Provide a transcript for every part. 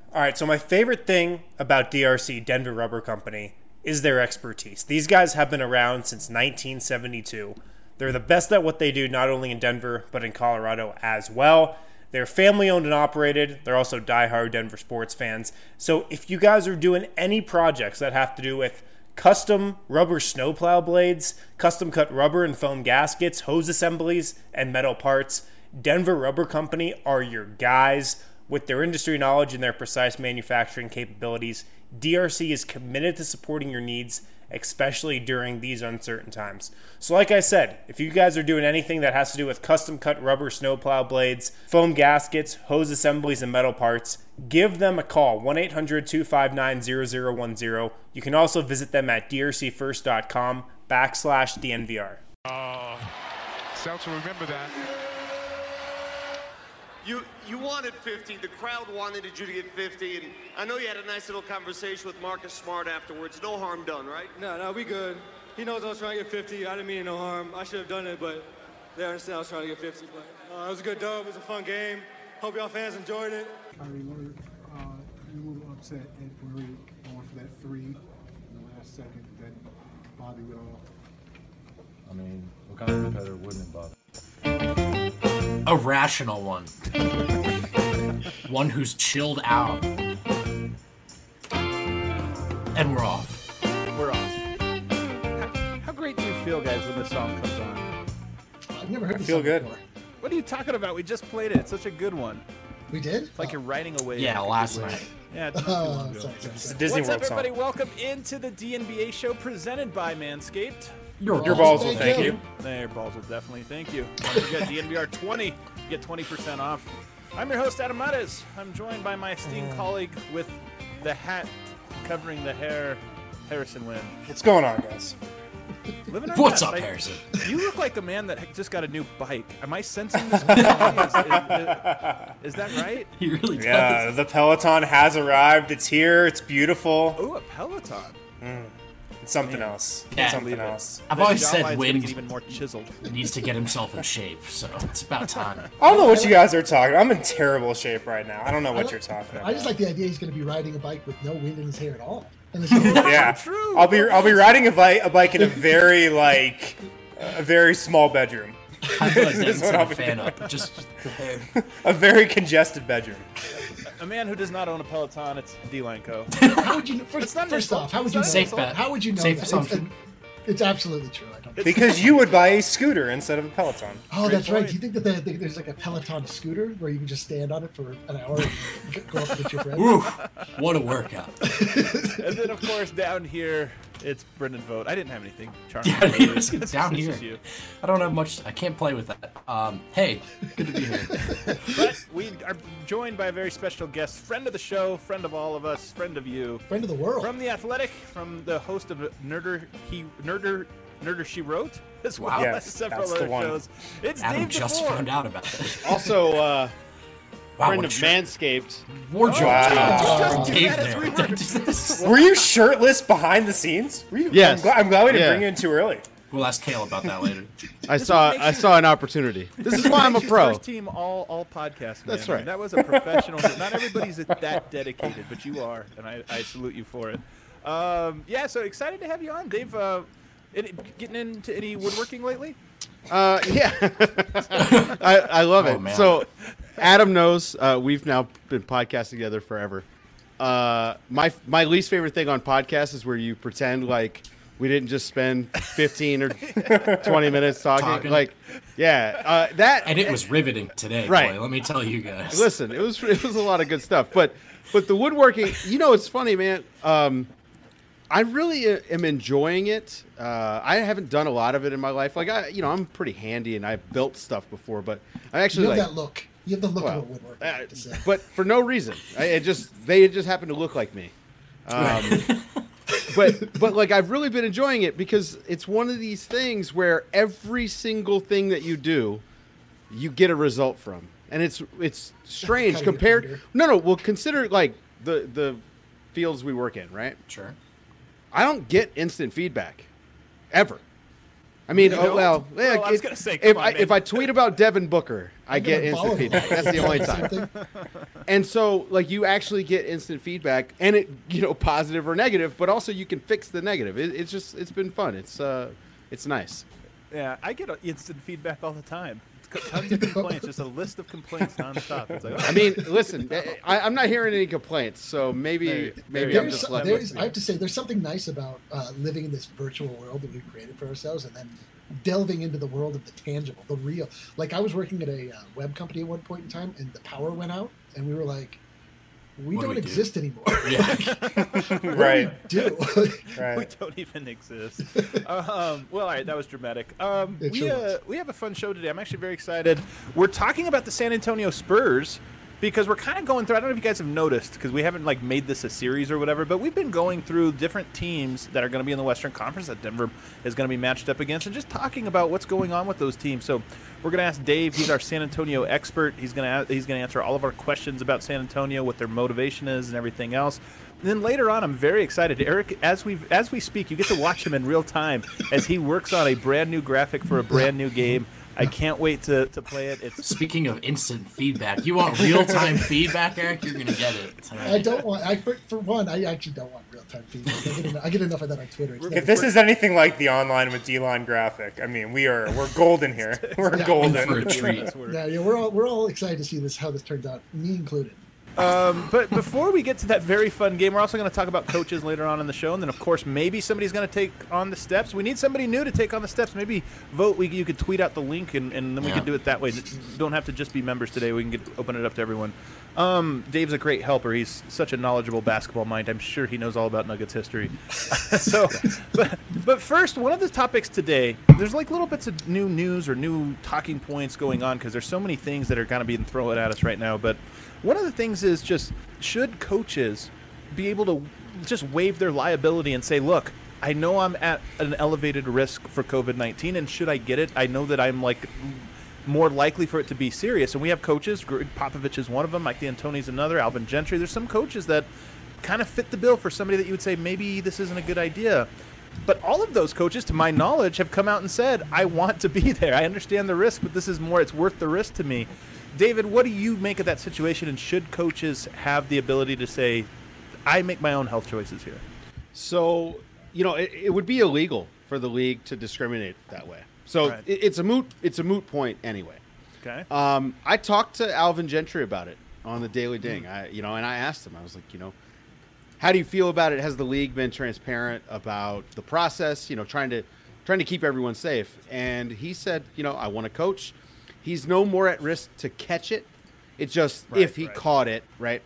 All right, so my favorite thing about DRC, Denver Rubber Company, is their expertise. These guys have been around since 1972. They're the best at what they do, not only in Denver, but in Colorado as well. They're family-owned and operated. They're also diehard Denver sports fans. So if you guys are doing any projects that have to do with custom rubber snowplow blades, custom-cut rubber and foam gaskets, hose assemblies, and metal parts, Denver Rubber Company are your guys. With their industry knowledge and their precise manufacturing capabilities, DRC is committed to supporting your needs, especially during these uncertain times. So like I said, if you guys are doing anything that has to do with custom-cut rubber snowplow blades, foam gaskets, hose assemblies, and metal parts, give them a call, 1-800-259-0010. You can also visit them at drcfirst.com/DNVR. Seltzer, remember that. You wanted 50. The crowd wanted you to get 50, and I know you had a nice little conversation with Marcus Smart afterwards. No harm done, right? No, we good. He knows I was trying to get 50. I didn't mean no harm. I should have done it, but they understand I was trying to get 50. But it was a good dub. It was a fun game. Hope y'all fans enjoyed it. I mean, we're a little upset at Murray going for that three in the last second. That bothered you at all? I mean, what kind of competitor wouldn't it bother? A rational one. One who's chilled out. And we're off. We're off. How great do you feel, guys, when this song comes on? I've never heard this feel song good. before. What are you talking about? We just played it. It's such a good one. We did? It's like you're riding away. Yeah, last night. Yeah, it's not too long ago. Sorry. It's a Disney What's up, World song. everybody? Welcome into the DNBA show presented by Manscaped. Your balls will thank you. There, balls will definitely thank you. Don't forget DNVR 20. You get 20% off. I'm your host, Adam Mares. I'm joined by my esteemed colleague with the hat covering the hair, Harrison Wind. What's going on, guys? Living our What's best. up, Harrison? You look like a man that just got a new bike. Am I sensing this correctly? Is that right? He really does. Yeah, the Peloton has arrived. It's here. It's beautiful. Ooh, a Peloton. It's something else. Yeah. It's something else. I've always Jawline's said gonna Wind get even more chiseled. needs to get himself in shape, so it's about time. I don't know what you guys are talking about. I'm in terrible shape right now. I don't know what you're talking about. I just like the idea he's going to be riding a bike with no wind in his hair at all. And it's Yeah, True. I'll be riding a bike in a very a very small bedroom, I feel like This is that's what I'll a be fan doing. up. Just a very congested bedroom. A man who does not own a Peloton, it's D-Line Co. How would you? First off, how would you know? Safe bet. How would you know? Safe that? assumption. It's absolutely true. I don't. Because you would buy a scooter instead of a Peloton. Oh, that's point. right. Do you think that there's like a Peloton scooter where you can just stand on it for an hour and go up and get your friends? Woo, what a workout. And then, of course, down here, it's Brendan Vogt. I didn't have anything charming. Yeah, It's down just here. you. I don't have much. I can't play with that. Hey, good to be here. But we are joined by a very special guest, friend of the show, friend of all of us, friend of you. Friend of the world. From The Athletic, from the host of Nerder She Wrote, as well Yes, as several that's the other one. shows. It's Adam Dave just DeFore. found out about it. Also, Wow, friend what of a shirt. Manscaped. Wardrobe Wow. change. Just do that as we Dave Were you shirtless behind the scenes? Were you? Yes. I'm glad we didn't Yeah. bring you in too early. We'll ask Kale about that later. I saw an opportunity. This is why I'm a pro. First team all podcast. That's man. right. That was a professional. Not everybody's that dedicated, but you are, and I salute you for it. Yeah, so excited to have you on, Dave. Getting into any woodworking lately? Yeah, I love Oh, it. man. So, Adam knows we've now been podcasting together forever. My least favorite thing on podcasts is where you pretend like we didn't just spend 15 or 20 minutes talking. Like, yeah, that And it was riveting today, Right. boy. Let me tell you guys. Listen, it was a lot of good stuff. But the woodworking, it's funny, man. I really am enjoying it. I haven't done a lot of it in my life. Like I'm pretty handy and I've built stuff before, but I actually You have that look. You have the look of a woodworker. I have to say. but for no reason. They just happen to look like me. But like I've really been enjoying it because it's one of these things where every single thing that you do, you get a result from, and it's strange Kind of compared. computer. No. Well, consider like the fields we work in, right? Sure. I don't get instant feedback, ever. I mean, You don't? Well, I was if, gonna say, if come I on, man. if I tweet about Devin Booker, I I'm get gonna follow instant him. feedback. That's the only time. And so, like, you actually get instant feedback, and it, positive or negative, but also you can fix the negative. It's been fun. It's nice. Yeah, I get instant feedback all the time. Tons of complaints, just a list of complaints nonstop. It's like, I mean, listen, I'm not hearing any complaints, so maybe I'm just lucky. I have to say, there's something nice about living in this virtual world that we've created for ourselves, and then delving into the world of the tangible, the real. Like, I was working at a web company at one point in time, and the power went out, and we were like, we don't exist anymore. Yeah. Right. Do Right. we don't even exist. Well, all right, that was dramatic. It sure was. We have a fun show today. I'm actually very excited. We're talking about the San Antonio Spurs because we're kind of going through. I don't know if you guys have noticed because we haven't made this a series or whatever, but we've been going through different teams that are going to be in the Western Conference that Denver is going to be matched up against, and just talking about what's going on with those teams. So we're going to ask Dave. He's our San Antonio expert. He's going to answer all of our questions about San Antonio, what their motivation is, and everything else. And then later on, I'm very excited. Eric, as we speak, you get to watch him in real time as he works on a brand new graphic for a brand new game. I can't wait to play it. Speaking of instant feedback, you want real-time feedback, Eric? You're going to get it tonight. I don't want. For one, I actually don't want real-time feedback. I get enough of that on Twitter. If this is anything like the online with D-line graphic, I mean, we're golden here. We're golden. For a treat. Yeah, we're all excited to see how this turns out, me included. But before we get to that very fun game, we're also going to talk about coaches later on in the show. And then, of course, maybe somebody's going to take on the steps. We need somebody new to take on the steps. Maybe vote. You could tweet out the link, and then we could do it that way. Don't have to just be members today. We can open it up to everyone. Dave's a great helper. He's such a knowledgeable basketball mind. I'm sure he knows all about Nuggets history. But first, one of the topics today, there's little bits of new news or new talking points going on because there's so many things that are kind of being thrown at us right now. But one of the things is just, should coaches be able to just waive their liability and say, look, I know I'm at an elevated risk for COVID-19, and should I get it, I know that I'm more likely for it to be serious. And we have coaches, Greg Popovich is one of them, Mike D'Antoni's another, Alvin Gentry. There's some coaches that kind of fit the bill for somebody that you would say, maybe this isn't a good idea. But all of those coaches, to my knowledge, have come out and said, I want to be there. I understand the risk, but this is more, it's worth the risk to me. David, what do you make of that situation, and should coaches have the ability to say, I make my own health choices here? So, it would be illegal for the league to discriminate that way. So Right. it's a moot point anyway. Okay. I talked to Alvin Gentry about it on the Daily Ding. And I asked him, I was like, how do you feel about it? Has the league been transparent about the process? Trying to keep everyone safe. And he said, I want to coach. He's no more at risk to catch it. It's just if he caught it, right?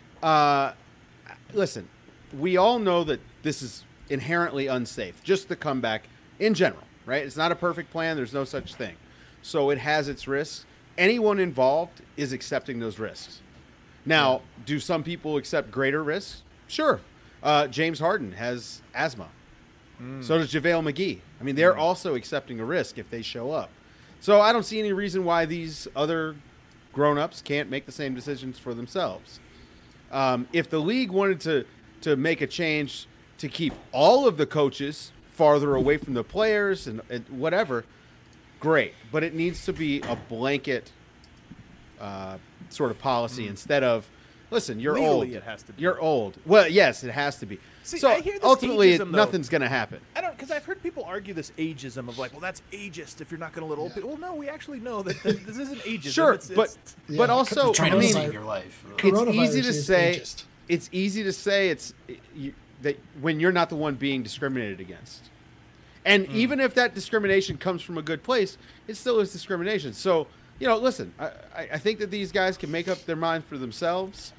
Listen, we all know that this is inherently unsafe, just the comeback in general, right? It's not a perfect plan. There's no such thing. So it has its risks. Anyone involved is accepting those risks. Now, do some people accept greater risks? Sure. James Harden has asthma. So does JaVale McGee. I mean, they're also accepting a risk if they show up. So I don't see any reason why these other grown-ups can't make the same decisions for themselves. If the league wanted to make a change to keep all of the coaches farther away from the players and whatever, great. But it needs to be a blanket sort of policy instead of, listen, you're Legally, old. it has to be. You're old. Well, yes, it has to be. See, so I hear this ultimately, ageism, though. nothing's going to happen. I don't, because I've heard people argue this ageism of well, that's ageist if you're not going to let old people. Well, no, we actually know that this isn't ageism. Sure, it's but also, trying I to mean, save your life. it's easy to is say. ageist. It's easy to say that when you're not the one being discriminated against, and even if that discrimination comes from a good place, it still is discrimination. So listen, I think that these guys can make up their mind for themselves.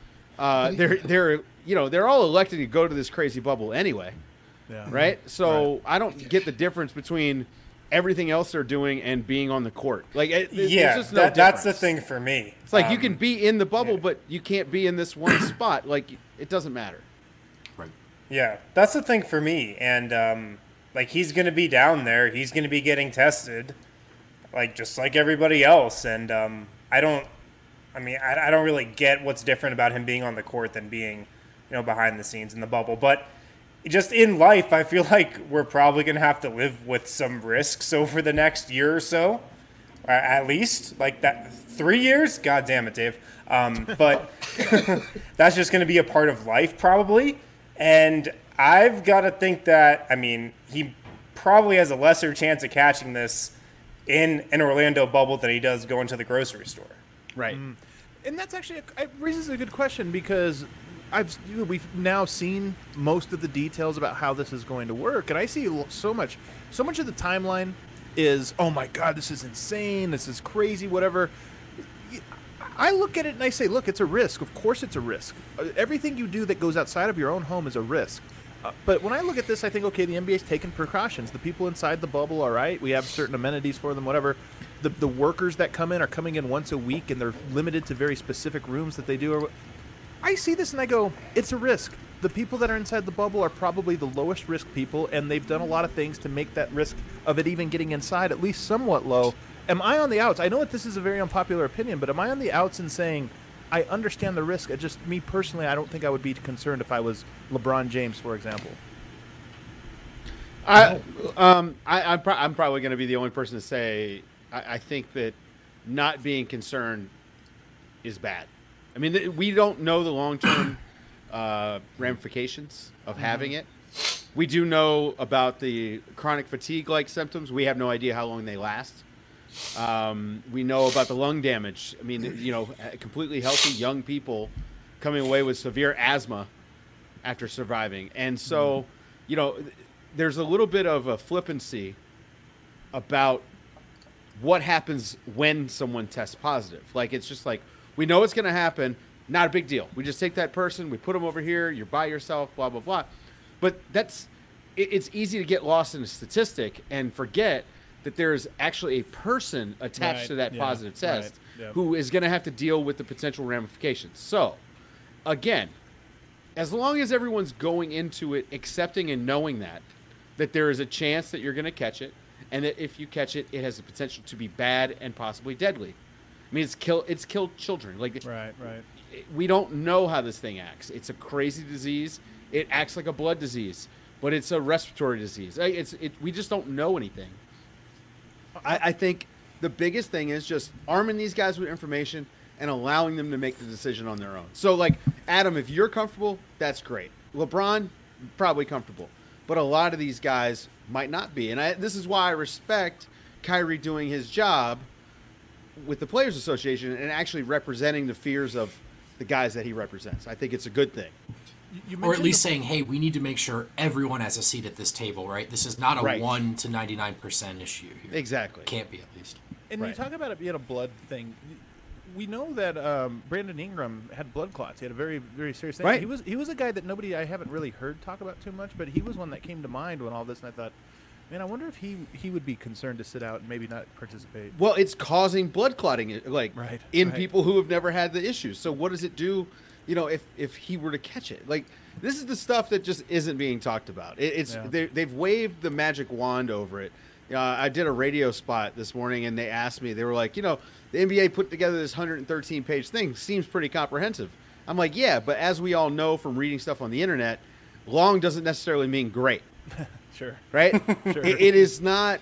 They're all elected to go to this crazy bubble anyway, right? So I don't get the difference between everything else they're doing and being on the court. There's just no that's the difference. thing for me. It's like you can be in the bubble, but you can't be in this one spot. It doesn't matter. Right. Yeah, that's the thing for me. And he's going to be down there. He's going to be getting tested, just like everybody else. And I don't really get what's different about him being on the court than being, behind the scenes in the bubble. But just in life, I feel like we're probably going to have to live with some risks over the next year or so. At least, like that 3 years? God damn it, Dave. But that's just going to be a part of life, probably. And I've got to think that, I mean, he probably has a lesser chance of catching this in an Orlando bubble than he does going to the grocery store. Right. And that's actually it raises a good question, because we've now seen most of the details about how this is going to work, and I see so much of the timeline is, oh my God, this is insane, this is crazy, whatever. I look at it and I say, look, it's a risk. Of course it's a risk. Everything you do that goes outside of your own home is a risk. But when I look at this, I think, okay, the NBA's taking precautions. The people inside the bubble, all right, we have certain amenities for them, whatever. The workers that come in are coming in once a week, and they're limited to very specific rooms that they do. I see this and I go, it's a risk. The people that are inside the bubble are probably the lowest risk people, and they've done a lot of things to make that risk of it even getting inside at least somewhat low. Am I on the outs? I know that this is a very unpopular opinion, but am I on the outs in saying I understand the risk? Me personally, I don't think I would be concerned if I was LeBron James, for example. I'm probably going to be the only person to say I think that not being concerned is bad. I mean, we don't know the long-term ramifications of having it. We do know about the chronic fatigue-like symptoms. We have no idea how long they last. We know about the lung damage. I mean, completely healthy young people coming away with severe asthma after surviving. And so, there's a little bit of a flippancy about what happens when someone tests positive. Like, it's just like, we know it's going to happen. Not a big deal. We just take that person, we put them over here, you're by yourself, blah, blah, blah. But it's easy to get lost in a statistic and forget that there's actually a person attached to that positive test who is going to have to deal with the potential ramifications. So, again, as long as everyone's going into it accepting and knowing that there is a chance that you're going to catch it, and that if you catch it, it has the potential to be bad and possibly deadly. I mean, it's killed children. Like, right. We don't know how this thing acts. It's a crazy disease. It acts like a blood disease, but it's a respiratory disease. We just don't know anything. I think the biggest thing is just arming these guys with information and allowing them to make the decision on their own. So, like, Adam, if you're comfortable, that's great. LeBron, probably comfortable. But a lot of these guys might not be. And this is why I respect Kyrie doing his job with the Players Association and actually representing the fears of the guys that he represents. I think it's a good thing. Or at least saying, hey, we need to make sure everyone has a seat at this table, right? This is not a 1 to 99% issue here. Exactly. Can't be, at least. And you talk about it being a blood thing. We know that Brandon Ingram had blood clots. He had a very, very serious thing. Right. He was a guy that I haven't really heard talk about too much, but he was one that came to mind when all this, and I thought, man, I wonder if he would be concerned to sit out and maybe not participate. Well, it's causing blood clotting, in people who have never had the issues. So what does it do, if he were to catch it? Like, this is the stuff that just isn't being talked about. They've waved the magic wand over it. I did a radio spot this morning, and they asked me, they were like, the NBA put together this 113-page thing. Seems pretty comprehensive. I'm like, yeah, but as we all know from reading stuff on the internet, long doesn't necessarily mean great. Sure. Right? Sure. It is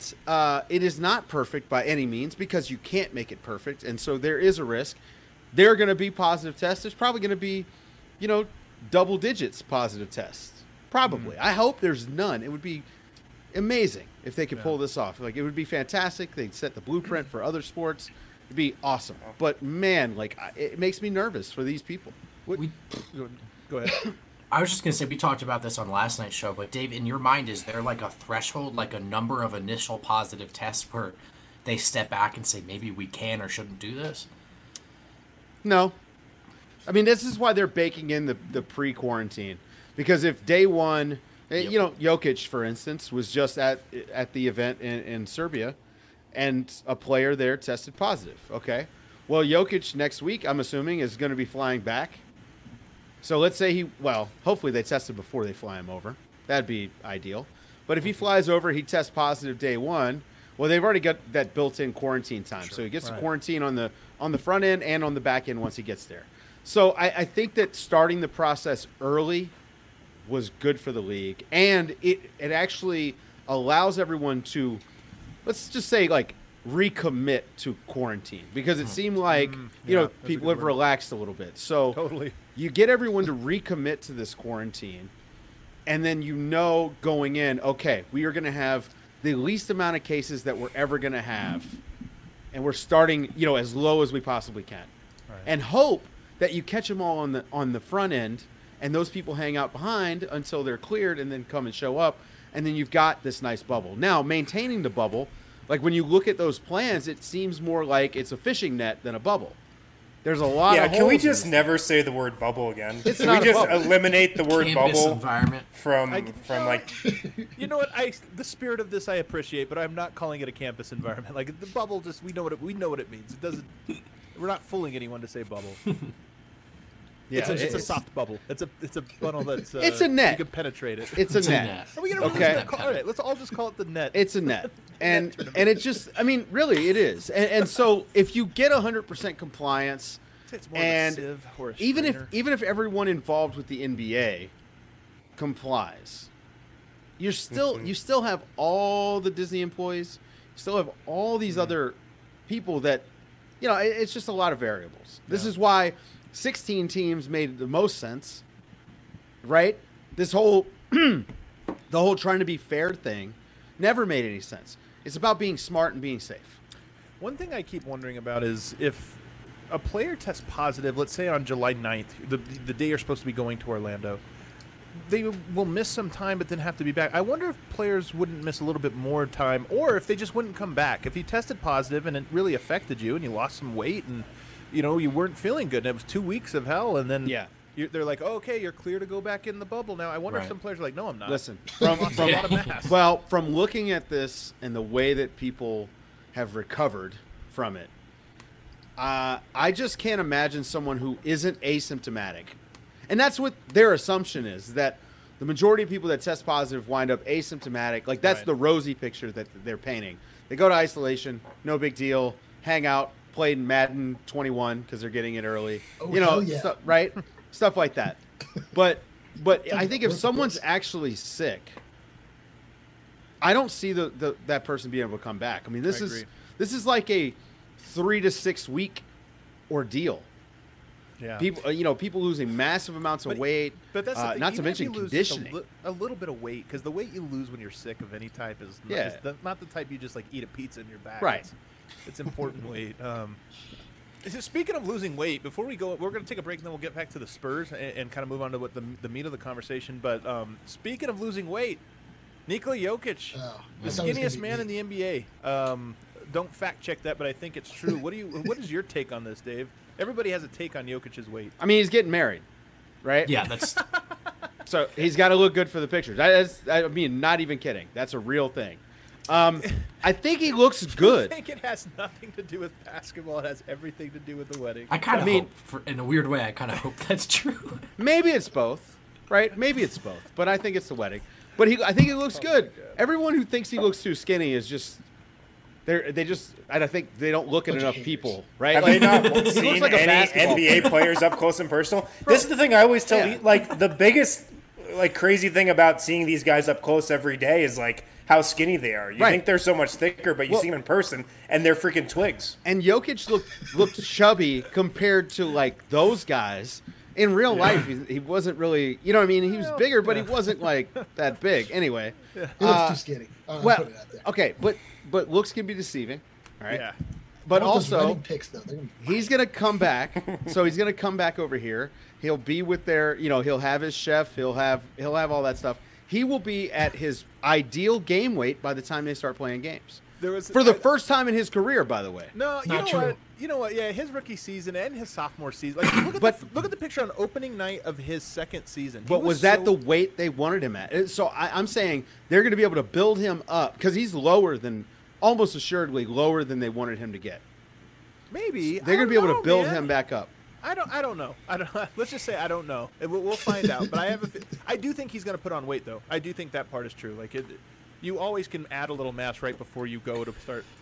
not perfect by any means, because you can't make it perfect, and so there is a risk. There are going to be positive tests. There's probably going to be, double digits positive tests. Probably. I hope there's none. It would be amazing if they could pull this off. Like, it would be fantastic. They'd set the blueprint for other sports. It'd be awesome. But man, it makes me nervous for these people. Go ahead. I was just going to say, we talked about this on last night's show, but Dave, in your mind, is there like a threshold, like a number of initial positive tests where they step back and say, maybe we can or shouldn't do this? No. I mean, this is why they're baking in the pre-quarantine. Because if day one, Jokic, for instance, was just at the event in Serbia, and a player there tested positive. Okay. Well, Jokic next week, I'm assuming, is going to be flying back. So let's say hopefully they tested before they fly him over. That'd be ideal. But if he flies over, he tests positive day one. Well, they've already got that built-in quarantine time. Sure. So he gets to quarantine on the front end and on the back end once he gets there. So I think that starting the process early was good for the league, and it actually allows everyone to, let's just say, like, recommit to quarantine, because it seemed like people have relaxed a little bit. So Totally. you get everyone to recommit to this quarantine, and then going in, okay, we are going to have the least amount of cases that we're ever going to have, and we're starting as low as we possibly can, and hope that you catch them all on the front end, and those people hang out behind until they're cleared and then come and show up, and then you've got this nice bubble. Now, maintaining the bubble, like when you look at those plans, it seems more like it's a fishing net than a bubble. There's a lot of holes. Can we just never say the word bubble again? It's Can not we a just bubble. eliminate the word Campus bubble environment. from like You know what? The spirit of this I appreciate, but I'm not calling it a campus environment. Like the bubble, just we know what it means. It doesn't. We're not fooling anyone to say bubble. Yeah, it's a soft bubble. It's a funnel that's. It's a net. You can penetrate it. It's a net. Are we gonna Okay. all right, let's all just call it the net. It's a net. And it just, I mean, really, it is. And so if you get 100% compliance, It's more and of a sieve or a even strainer. if everyone involved with the NBA complies, you still have all the Disney employees, you still have all these other people that, it's just a lot of variables. This is why 16 teams made the most sense, right? This whole the whole trying to be fair thing never made any sense. It's about being smart and being safe. One thing I keep wondering about is if a player tests positive, let's say on July 9th, the day you're supposed to be going to Orlando, they will miss some time but then have to be back. I wonder if players wouldn't miss a little bit more time, or if they just wouldn't come back. If you tested positive and it really affected you and you lost some weight and you weren't feeling good and it was 2 weeks of hell, and then they're like, oh, okay, you're clear to go back in the bubble now. I wonder if some players are like, no, I'm not. Listen, from a lot of mass. from looking at this and the way that people have recovered from it, I just can't imagine someone who isn't asymptomatic. And that's what their assumption is, that the majority of people that test positive wind up asymptomatic. Like, that's the rosy picture that they're painting. They go to isolation, no big deal, hang out, play Madden 21 because they're getting it early. Oh, hell yeah. Stuff, right? Stuff like that. But I think if someone's actually sick, I don't see that person being able to come back. I mean, this is like a 3 to 6 week ordeal. Yeah. People losing massive amounts of weight. But that's the thing. Not to Even if mention you lose conditioning. a little bit of weight, because the weight you lose when you're sick of any type is not the type you just like eat a pizza in your back. Right. It's important weight. Speaking of losing weight, before we go, we're going to take a break and then we'll get back to the Spurs and kind of move on to what the meat of the conversation. But speaking of losing weight, Nikola Jokic, the skinniest man in the NBA. Don't fact check that, but I think it's true. What is your take on this, Dave? Everybody has a take on Jokic's weight. I mean, he's getting married, right? Yeah, that's. So he's got to look good for the pictures. I mean, not even kidding. That's a real thing. I think he looks good. I think it has nothing to do with basketball. It has everything to do with the wedding. I kind of hope, in a weird way, I kind of hope that's true. Maybe it's both, right? Maybe it's both, but I think it's the wedding. But I think he looks good. Everyone who thinks he looks too skinny is just I think they don't look at enough people, right? Have they not seen like any NBA players up close and personal? This is the thing I always tell you, like, the biggest crazy thing about seeing these guys up close every day is like how skinny they are. You think they're so much thicker, but you see them in person and they're freaking twigs. And Jokic looked chubby compared to like those guys. In real life, he wasn't really, you know what I mean? He was bigger, but he wasn't like that big. Anyway. He looks too skinny. Well, put it out there. okay, but looks can be deceiving, right? Yeah. But I want those also, running picks, though. They're gonna be he's going to come back. So he's going to come back over here. He'll be with he'll have his chef. He'll have all that stuff. He will be at his ideal game weight by the time they start playing games. For the first time in his career, by the way. No, Not true. You know what? Yeah, his rookie season and his sophomore season. Like, look at the picture on opening night of his second season. But was that the weight they wanted him at? So I'm saying they're going to be able to build him up because he's almost assuredly lower than they wanted him to get. Maybe They're going to be able to build him back up. I don't know. Let's just say I don't know. We'll find out. But I do think he's going to put on weight, though. I do think that part is true. Like, you always can add a little mass right before you go to start.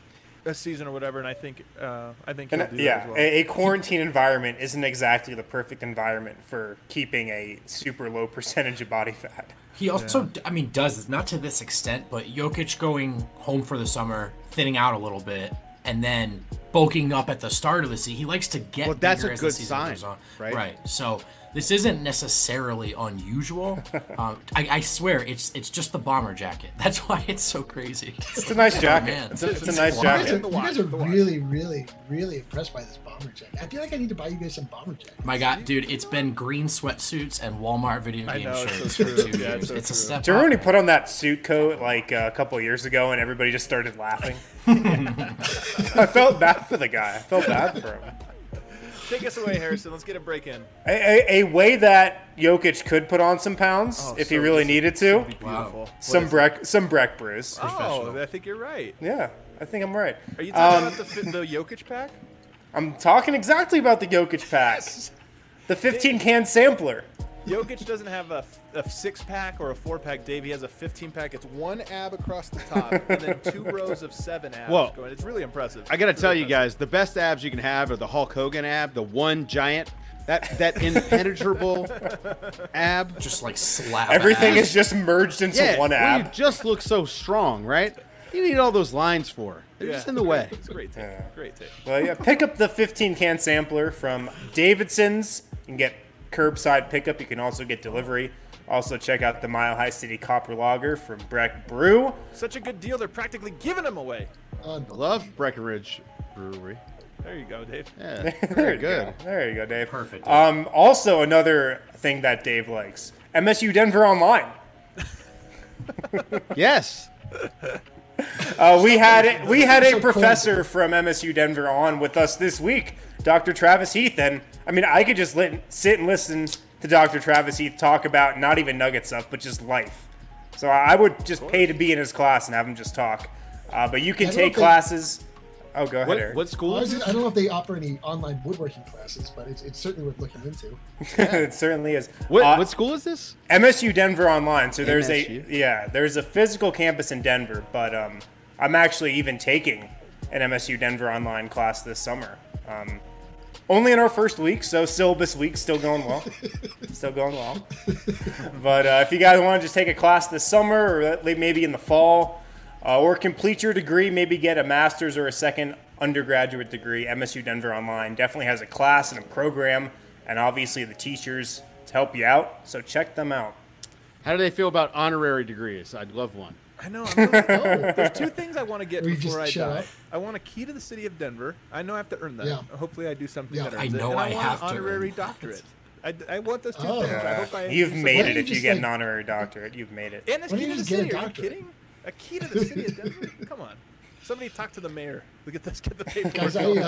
a season or whatever, and I think he'll do And, that yeah, as well. a quarantine environment isn't exactly the perfect environment for keeping a super low percentage of body fat. He also, I mean, does not to this extent, but Jokic going home for the summer, thinning out a little bit, and then bulking up at the start of the season. He likes to get Well, that's bigger a as good the season sign, goes on. right? Right. So this isn't necessarily unusual. I swear, it's just the bomber jacket. That's why it's so crazy. It's a nice jacket. Man. It's a nice You guys jacket. are, you guys are really, really, really impressed by this bomber jacket. I feel like I need to buy you guys some bomber jackets. My God, dude, it's been green sweatsuits and Walmart video I game know, it's shirts so for true. 2 Yeah, years. it's so It's a true. step Do you remember when up. he put on that suit coat like a couple of years ago and everybody just started laughing? I felt bad for the guy. I felt bad for him. Take us away, Harrison. Let's get a break in. A way that Jokic could put on some pounds if he so really this needed to. Beautiful. Some Breck brews. Oh, I think you're right. Yeah, I think I'm right. Are you talking about the Jokic pack? I'm talking exactly about the Jokic pack. The 15-can sampler. Jokic doesn't have a 6-pack or a 4-pack, Dave. He has a 15-pack. It's 1 ab across the top and then 2 rows of 7 abs Whoa. going. It's really impressive. I gotta It's tell really you guys, the best abs you can have are the Hulk Hogan ab, the one giant, that impenetrable ab. Just like slap. Everything ass. is just merged into Yeah, one well, you ab. just look so strong, right? You need all those lines for. They're Yeah. just in the way. It's a great take. Great take. Well, yeah, pick up the 15-can sampler from Davidson's. You can get curbside pickup. You can also get delivery. Also, check out the Mile High City Copper Lager from Breck Brew. Such a good deal. They're practically giving them away. Love Breckenridge Brewery. There you go, Dave. Yeah, There very you good. go. There you go, Dave. Perfect. Also, another thing that Dave likes: MSU Denver Online. Yes. We had a professor from MSU Denver on with us this week, Dr. Travis Heath, and I mean, I could just sit and listen to Dr. Travis Heath talk about not even Nugget stuff, but just life. So I would just pay to be in his class and have him just talk. But you can I don't take think- classes. Oh, go ahead, Eric. What school Well, is I this? don't know if they offer any online woodworking classes, but it's certainly worth looking into. It certainly is. What school is this? MSU Denver Online. So there's MSU? there's a physical campus in Denver, but I'm actually even taking an MSU Denver Online class this summer. Only in our first week, so syllabus week still going well. Still going well. But if you guys want to just take a class this summer or maybe in the fall, or complete your degree, maybe get a master's or a second undergraduate degree, MSU Denver Online definitely has a class and a program, and obviously the teachers to help you out. So check them out. How do they feel about honorary degrees? I'd love one. I know. There's 2 things I want to get Will you before I just shut die. up? I want a key to the city of Denver. I know I have to earn that. Yeah. Hopefully I do something Yeah. that I earns it. know And I want have an to honorary earn doctorate. I want those 2 Oh. things. I hope I You've do made Why don't it you if you just, get like- an honorary doctorate. You've made it. And it's Why key don't to you the just get a city. Are you doctorate? kidding? A key to the city of Denver? Come on. Somebody talk to the mayor. Look at this. Get the paperwork. Guys, going.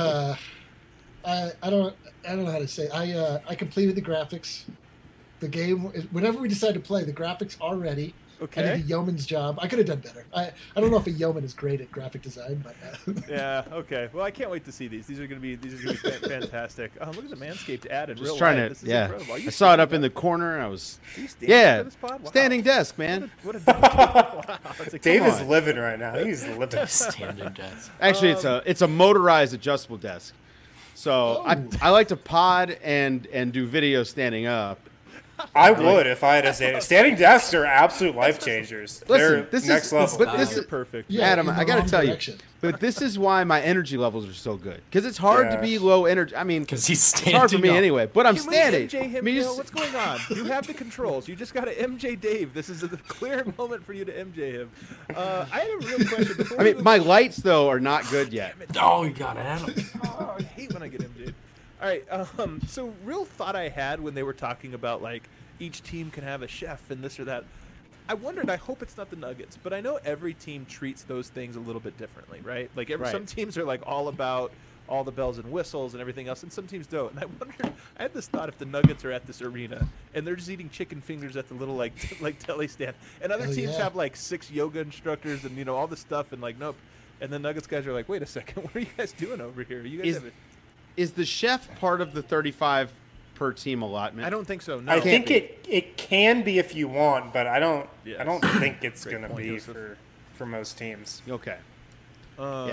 I don't know how to say. I completed the graphics. The game, whenever we decide to play, the graphics are ready. Okay. I did a yeoman's job. I could have done better. I don't know if a yeoman is great at graphic design, but Yeah. Okay. Well, I can't wait to see these. These are gonna be fantastic. Oh, look at the Manscaped ad in Just real trying life. to, This is yeah. incredible. Are you I saw it up standing in the corner, and I was, Are you standing yeah, for this pod? Wow. standing desk, man. What a wow. That's Dave is on. living right now. He's living. Standing desk. Actually, it's a motorized adjustable desk. So Oh. I like to pod and do video standing up. I would if I had a standing desks are absolute life changers. Listen, They're this next is level. but this You're is perfect. yeah, Adam. in the I got to wrong tell direction. you, but this is why my energy levels are so good because it's hard to Yeah. be low energy. I mean, Because he's it's standing hard for me up. anyway. But I'm Can we standing. MJ him, I mean, Neil? just- What's going on? You have the controls. You just got to MJ Dave. This is a clear moment for you to MJ him. I had a real question. Before I we mean, my lights though are not good yet. Oh, you got Adam. Oh, I hate when I get MJ'd. All right. So real thought I had when they were talking about like each team can have a chef and this or that. I wondered. I hope it's not the Nuggets, but I know every team treats those things a little bit differently, right? Like Right. some teams are like all about all the bells and whistles and everything else, and some teams don't. And I wondered. I had this thought: if the Nuggets are at this arena and they're just eating chicken fingers at the little like deli stand, and other Oh, teams yeah. have like 6 yoga instructors and all this stuff, and like nope. And the Nuggets guys are like, wait a second, what are you guys doing over here? You guys have a Is the chef part of the 35 per team allotment? I don't think so. No. I think it can be if you want, but I don't Yes. think it's Great gonna point, be Joseph. for most teams. Okay. Yeah.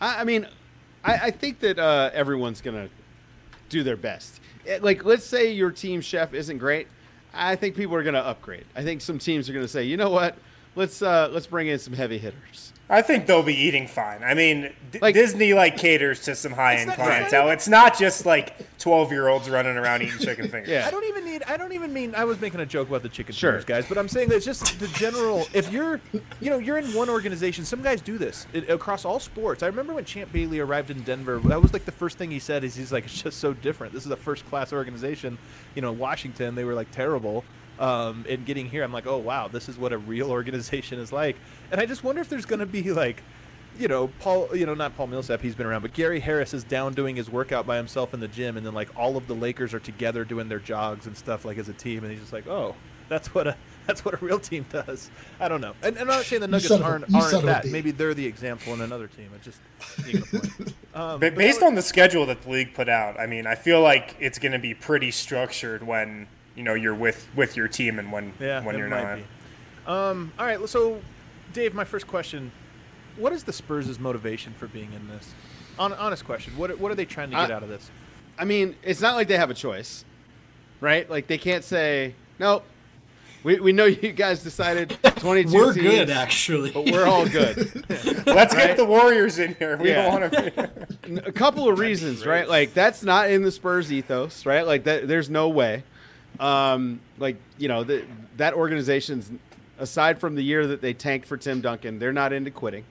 I mean, I think that everyone's going to do their best. Like, let's say your team chef isn't great. I think people are going to upgrade. I think some teams are going to say, you know what? Let's bring in some heavy hitters. I think they'll be eating fine. I mean, Disney caters to some high-end not- clientele. It's not just 12-year-olds running around eating chicken fingers. Yeah. I don't even mean I was making a joke about the chicken Sure. fingers, guys, but I'm saying that it's just the general. If you're in one organization, some guys do this across all sports. I remember when Champ Bailey arrived in Denver. That was the first thing he said. He's like, it's just so different. This is a first-class organization. Washington, they were terrible. And getting here, I'm like, oh wow, this is what a real organization is like. And I just wonder if there's going to be Paul, not Paul Millsap, he's been around, but Gary Harris is down doing his workout by himself in the gym, and then all of the Lakers are together doing their jogs and stuff as a team, and he's just like, oh, that's what a real team does. I don't know. And I'm not saying the Nuggets aren't that. Maybe they're the example in another team. It's just making a point. Based on the schedule that the league put out, I mean, I feel like it's going to be pretty structured when you're with your team and when you're not. All right, so Dave, my first question: what is the Spurs' motivation for being in this? Honest question. What are they trying to get out of this? I mean, it's not like they have a choice, right? Like they can't say nope. We know you guys decided 22 We're teams, good, actually. but we're all good. Let's get the Warriors in here. We don't want to. A couple of reasons, right? Like that's not in the Spurs ethos, right? Like that. There's no way. That organization's, aside from the year that they tanked for Tim Duncan, they're not into quitting.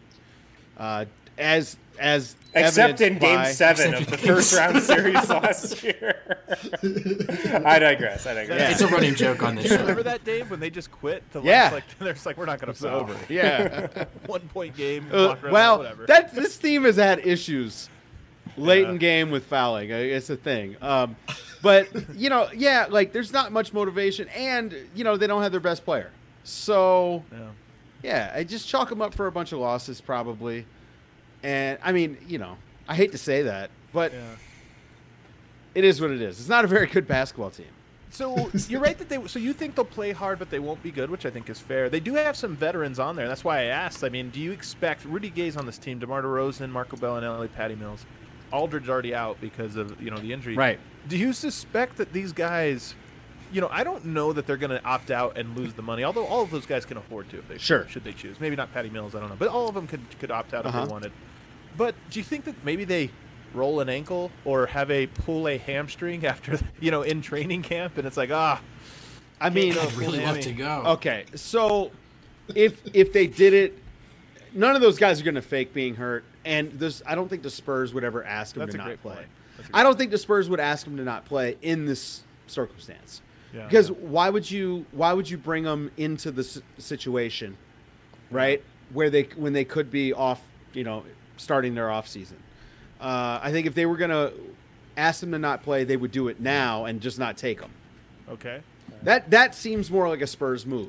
As except in Game 7 of the first round series last year. I digress. Yeah. It's a running joke on this show. Remember that, Dave, when they just quit? Yeah. They're just we're not going to play. Over. Yeah. 1 point game. Whatever. This team has had issues late in game with fouling. It's a thing. But, there's not much motivation, and, they don't have their best player. So, I just chalk them up for a bunch of losses probably. And, I mean, I hate to say that, but it is what it is. It's not a very good basketball team. So you're right that you think they'll play hard, but they won't be good, which I think is fair. They do have some veterans on there. That's why I asked. I mean, do you expect Rudy Gay's on this team, DeMar DeRozan, Marco Bellinelli, Patty Mills? Aldridge already out because of the injury. Right. Do you suspect that these guys, I don't know that they're going to opt out and lose the money, although all of those guys can afford to if they should they choose. Maybe not Patty Mills, I don't know, but all of them could opt out if they wanted. But do you think that maybe they roll an ankle or pull a hamstring after in training camp and it's like I mean, I'd really love to go. Okay, so if they did it, none of those guys are going to fake being hurt. And I don't think the Spurs would ever ask him to not play. I don't think the Spurs would ask him to not play in this circumstance. Yeah, because why would you bring them into the situation, right? When they could be off, starting their off season. I think if they were going to ask them to not play, they would do it now and just not take them. Okay. That seems more like a Spurs move.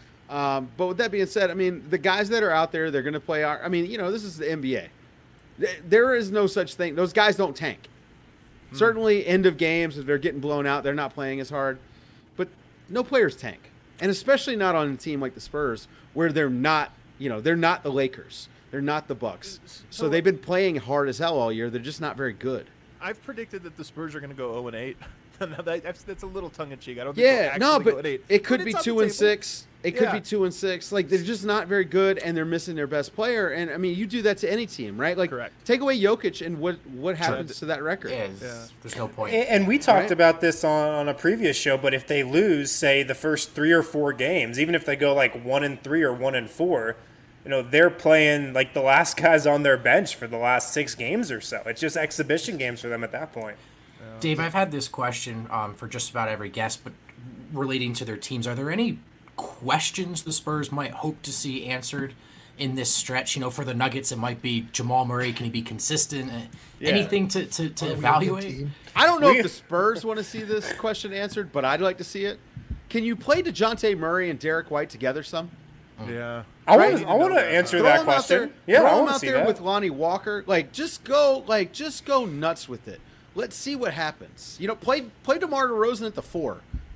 But with that being said, I mean, the guys that are out there, they're going to play. This is the NBA. There is no such thing. Those guys don't tank. Certainly, end of games, if they're getting blown out, they're not playing as hard. But no players tank, and especially not on a team like the Spurs, where they're not. They're not the Lakers. They're not the Bucks. So they've been playing hard as hell all year. They're just not very good. I've predicted that the Spurs are going to go 0-8. That's a little tongue in cheek. I don't think they'll actually go 8. It could be 2-6. It could be 2-6. Like, they're just not very good, and they're missing their best player. And I mean, you do that to any team, right? Like, correct. Take away Jokic, and what happens to that record? There's no point. And we talked about this on a previous show. But if they lose, say, the first 3 or 4 games, even if they go 1-3 or 1-4, they're playing the last guys on their bench for the last 6 games or so. It's just exhibition games for them at that point. Dave, I've had this question for just about every guest, but relating to their teams, are there any questions the Spurs might hope to see answered in this stretch? For the Nuggets, it might be Jamal Murray. Can he be consistent? Anything to evaluate? I don't know if the Spurs want to see this question answered, but I'd like to see it. Can you play DeJounte Murray and Derek White together some? Yeah. I want to answer that question. Throw him out there with Lonnie Walker. Just go nuts with it. Let's see what happens. Play DeMar DeRozan at the 4. All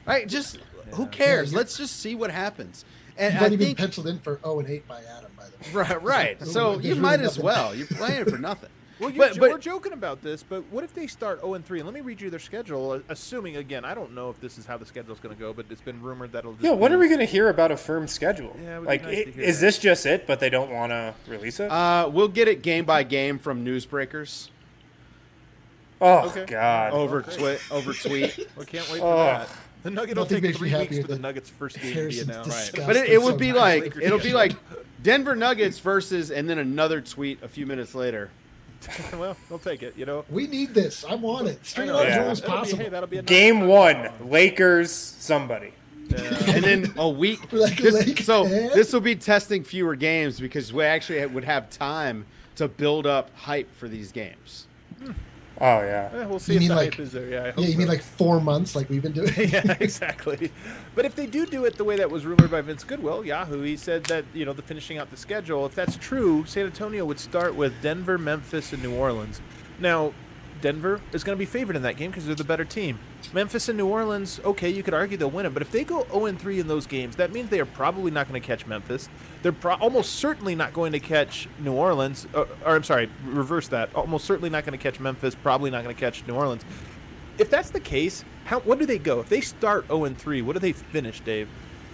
Right? Just who cares? Yeah, Let's just see what happens. And You've I already been think penciled in for 0-8 by Adam, by the way. right. So There's you really might as nothing. well. You're playing for nothing. Well, But- we're joking about this, but what if they start 0-3? Let me read you their schedule. Assuming again, I don't know if this is how the schedule's going to go, but it's been rumored that'll. Just When be- are we going to hear about a firm schedule? Yeah, it would be like, nice to hear is that. this just it? But they don't want to release it. We'll get it game by game from newsbreakers oh okay. God! over tweet. We can't wait for that. The Nugget will Nothing take makes me 3 weeks happier for the than Nuggets' first game to be Harrison's announced. disgust. But it would be Sometimes like Lakers Denver Nuggets versus, and then another tweet a few minutes later. Well, they'll take it. We need this. I want it. Straight I know. up Yeah. as long as That'll be- possible. hey, that'll be a nice Game touch. 1, Lakers. Somebody. And then a week. Like So Lakers. this will be testing fewer games because we actually would have time to build up hype for these games. Oh yeah. We'll see You if mean the like- hype is there. Yeah, I hope Yeah, you so. mean like 4 months like we've been doing? Yeah, exactly. But if they do it the way that was rumored by Vince Goodwill, Yahoo, he said that, the finishing out the schedule, if that's true, San Antonio would start with Denver, Memphis, and New Orleans. Now, Denver is going to be favored in that game because they're the better team. Memphis and New Orleans, okay, you could argue they'll win it, but if they go 0-3 in those games, that means they are probably not going to catch Memphis. They're almost certainly not going to catch New Orleans. Or I'm sorry, reverse that. Almost certainly not going to catch Memphis, probably not going to catch New Orleans. If that's the case, what do they go? If they start 0-3, what do they finish, Dave?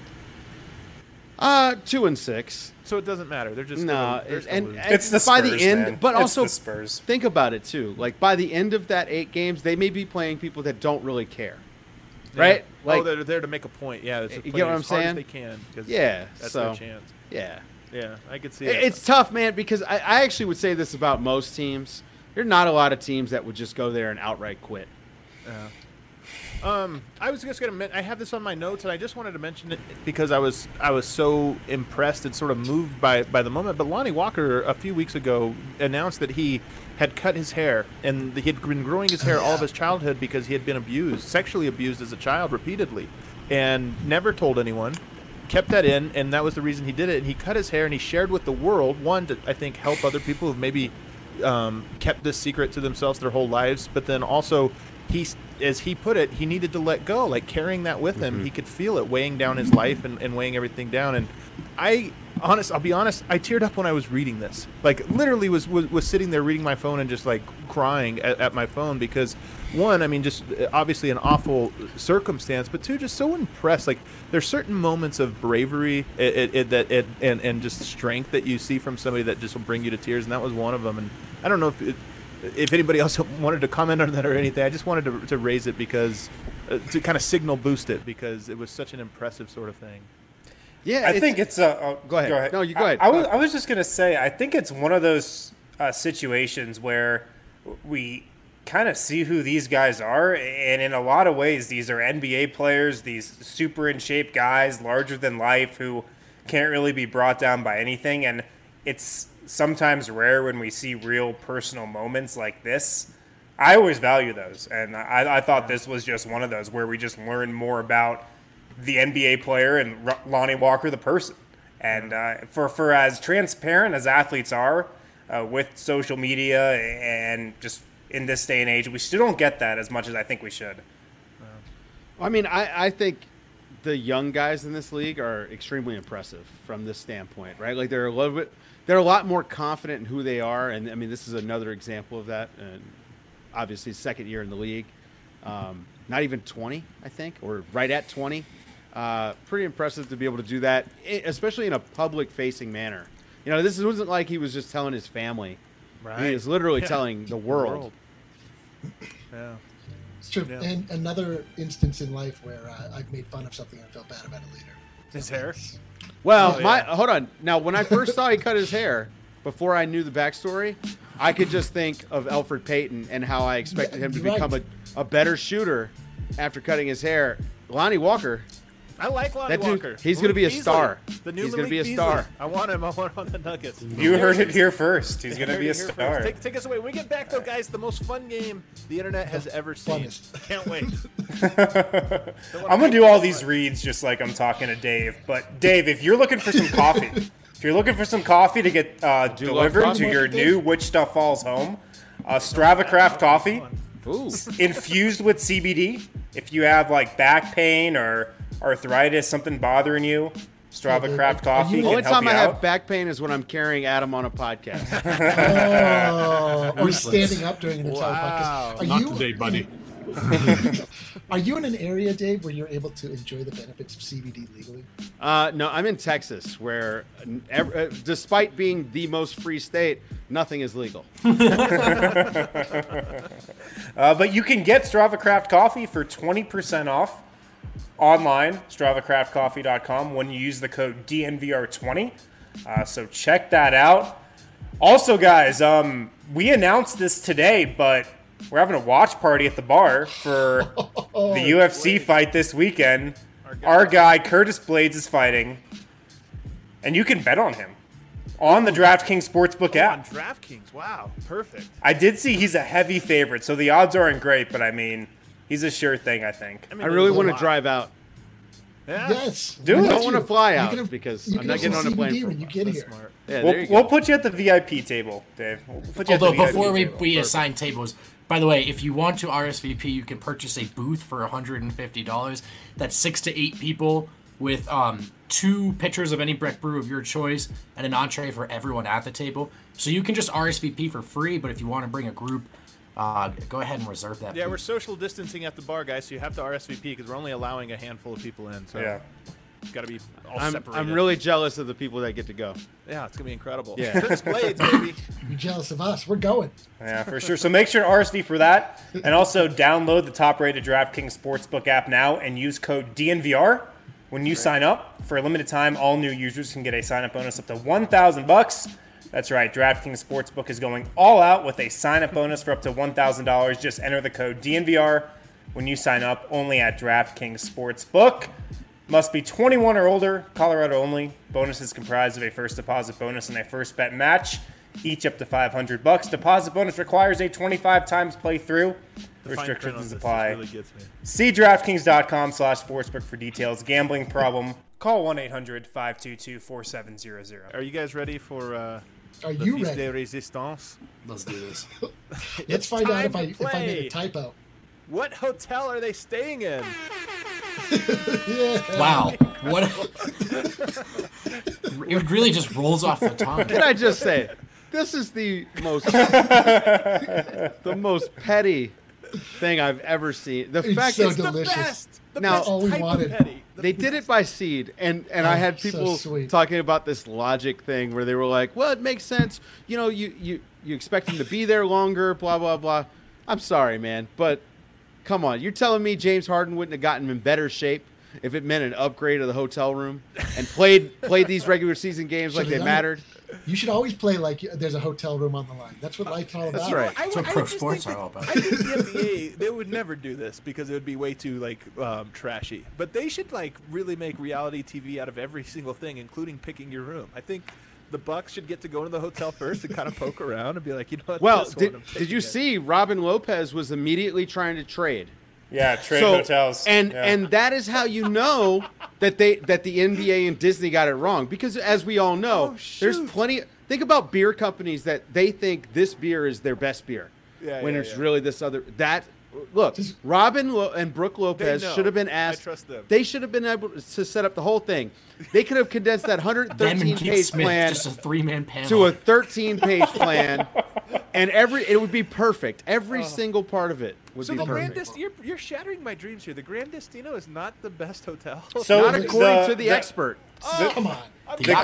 2-6. So it doesn't matter. They're just No, they're still and losing. It's the by Spurs, the end, man. but It's also the Spurs. think about it too. Like by the end of that 8 games, they may be playing people that don't really care, right? Yeah. Like, they're there to make a point. Yeah, You get what I'm as hard as saying? they can. 'Cause Yeah, that's so- their chance. yeah. Yeah, I could see it. It's tough, man, because I actually would say this about most teams. There are not a lot of teams that would just go there and outright quit. I was just gonna. I have this on my notes, and I just wanted to mention it because I was so impressed and sort of moved by the moment. But Lonnie Walker a few weeks ago announced that he had cut his hair, and he had been growing his hair all of his childhood because he had been sexually abused as a child repeatedly, and never told anyone. Kept that in, and that was the reason he did it. And he cut his hair, and he shared with the world. One, to I think help other people who've maybe kept this secret to themselves their whole lives, but then also as he put it, he needed to let go, like carrying that with him. He could feel it weighing down his life and weighing everything down. And I'll be honest, I teared up when I was reading this. Like literally was sitting there reading my phone and just like crying at my phone because one, I mean, just obviously an awful circumstance, but two, just so impressed. Like there's certain moments of bravery and just strength that you see from somebody that just will bring you to tears, and that was one of them. And I don't know if anybody else wanted to comment on that or anything. I just wanted to raise it because to kind of signal boost it because it was such an impressive sort of thing. Yeah, I think it's a. Go ahead. No, you go ahead. I was just gonna say. I think it's one of those situations where we kind of see who these guys are, and in a lot of ways, these are NBA players. These super in shape guys, larger than life, who can't really be brought down by anything. And it's sometimes rare when we see real personal moments like this. I always value those, and I thought this was just one of those where we just learn more about the NBA player and Lonnie Walker, the person. And for as transparent as athletes are with social media and just in this day and age, we still don't get that as much as I think we should. I mean, I think the young guys in this league are extremely impressive from this standpoint, right? Like they're a lot more confident in who they are, and I mean, this is another example of that. And obviously, second year in the league, not even 20, I think, or right at 20. Pretty impressive to be able to do that, especially in a public-facing manner. You know, this wasn't like he was just telling his family. Right. He was literally telling the world. Yeah. It's true. Yeah. And another instance in life where I've made fun of something and felt bad about it later. His hair? Well, Oh, yeah. hold on. Now, when I first saw he cut his hair, before I knew the backstory, I could just think of Elfrid Payton and how I expected him to Right. become a better shooter after cutting his hair. Lonnie Walker, I like Lonnie that dude, Walker. he's going to be a Beasley. star. The new He's going to be a Malik star. Beasley. I want him. I want him on the Nuggets. You heard it here first. He's going to be a Here star. first. Take us away. When we get back, though, guys, the most fun game the internet has ever seen. Funnest. Can't wait. I'm going to do all these reads just like I'm talking to Dave. But, Dave, if you're looking for some coffee, if you're looking for some coffee to get love delivered coffee. to your new Which Stuff Falls home, Strava Craft Coffee Ooh. infused with CBD. If you have like back pain or arthritis, something bothering you, Strava Craft Coffee The only can help time you I have out. back pain is when I'm carrying Adam on a podcast. Or standing up during an entire podcast. Are Not you, today, buddy. Are you in an area, Dave, where you're able to enjoy the benefits of CBD legally? No, I'm in Texas, where despite being the most free state, nothing is legal. But you can get Strava Craft Coffee for 20% off online, StravaCraftCoffee.com, when you use the code DNVR20. So check that out. Also, guys, we announced this today, but we're having a watch party at the bar for the UFC fight this weekend. Our guy, Curtis Blades, is fighting, and you can bet on him on the DraftKings Sportsbook app. On DraftKings, wow, perfect. I did see he's a heavy favorite, so the odds aren't great, but I mean, he's a sure thing, I think. I really want to drive out. Yeah. Yes. Do I it. don't want to fly out You can have- because you I'm can not have getting on some a plane. CBD For when you get here. Smart. Yeah, there you We'll go. put you at the VIP table, Dave. We'll put you at Although the before VIP we, table. we assign tables, by the way, if you want to RSVP, you can purchase a booth for $150. That's 6 to 8 people with 2 pitchers of any Breck brew of your choice and an entree for everyone at the table. So you can just RSVP for free, but if you want to bring a group, go ahead and reserve that. Yeah, booth. we're social distancing at the bar, guys, so you have to RSVP because we're only allowing a handful of people in. So Yeah. it's got to be all I'm separated. really jealous of the people that get to go. Yeah, it's gonna be incredible. Yeah. Curtis Blades, baby. You're jealous of us. We're going. Yeah, for sure. So make sure to RSV for that. And also download the top-rated DraftKings Sportsbook app now and use code DNVR when you sign up. For a limited time, all new users can get a sign-up bonus up to $1,000. That's right. DraftKings Sportsbook is going all out with a sign-up bonus for up to $1,000. Just enter the code DNVR when you sign up, only at DraftKings Sportsbook. Must be 21 or older, Colorado only. Bonus is comprised of a first deposit bonus and a first bet match, each up to $500. Deposit bonus requires a 25 times playthrough. The fine print on Restrictions this apply. really gets me. See DraftKings.com/sportsbook for details. Gambling problem? Call 1-800-522-4700. Are you guys ready for Are the you Fils ready? de Resistance? Let's do this. Let's find out time if to I made play. a typo. What hotel are they staying in? Yeah. Wow. What? It really just rolls off the tongue. Can I just say, this is the most petty thing I've ever seen. The It's fact so is, delicious. now all we wanted. they did it by seed, and I had so people sweet. talking about this logic thing where they were like, well, it makes sense. You know, you expect him to be there longer, blah blah blah. I'm sorry, man, but come on, you're telling me James Harden wouldn't have gotten him in better shape if it meant an upgrade of the hotel room and played these regular season games like Should've they done it. mattered? You should always play like there's a hotel room on the line. That's what life's all about. That's right. That's what pro sports are all about. I think the NBA, they would never do this because it would be way too trashy. But they should really make reality TV out of every single thing, including picking your room. I think the Bucks should get to go to the hotel first and kind of poke around and be like, you know what? Well, this one I'm did you taking it. see Robin Lopez was immediately trying to trade? Yeah, trade hotels. And that is how you know that the NBA and Disney got it wrong, because as we all know, there's plenty. Think about beer companies that they think this beer is their best beer, when it's really this other. Look, Robin and Brooke Lopez know. should have been asked. I trust them. They should have been able to set up the whole thing. They could have condensed that Them and 113 Keith page Smith, plan just a 3-man panel. to a 13-page plan, and it would be perfect. Every single part of it would So be the perfect. Grand you're shattering my dreams here. The Grand Destino is not the best hotel. So Not according to the expert. Come on. The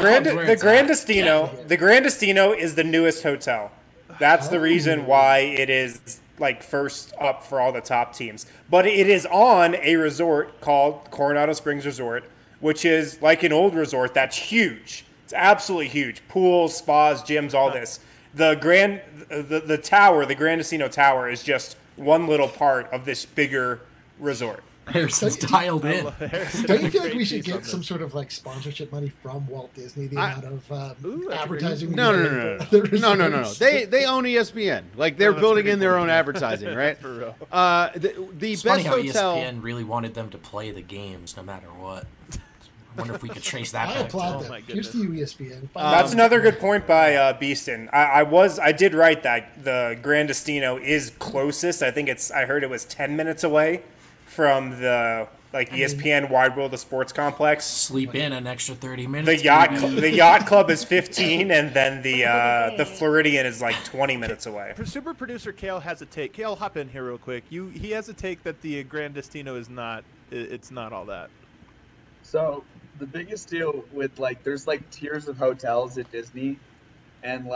Grand Destino is the newest hotel. That's the reason why it is first up for all the top teams. But it is on a resort called Coronado Springs Resort, which is like an old resort that's huge. It's absolutely huge. Pools, spas, gyms, all this. The Grand Destino Tower is just one little part of this bigger resort. Harrison's dialed in. Don't you feel like we should get some sort of sponsorship money from Walt Disney? The amount of advertising. No. They own ESPN. They're building in their own advertising, right? For real. The It's best funny how hotel. ESPN really wanted them to play the games no matter what. Wonder if we could trace that I back. applaud Oh my them. Here's to goodness. you, ESPN. That's another good point by Beeston. I did write that the Grandestino is closest. I heard it was 10 minutes away from the ESPN Wide World of Sports complex. Sleep in an extra 30 The minutes. yacht club is 15, and then the Floridian is like 20 minutes away. Super producer Kale has a take. Kale, hop in here real quick. He has a take that the Grandestino is not. It's not all that. So the biggest deal with there's tiers of hotels at Disney, and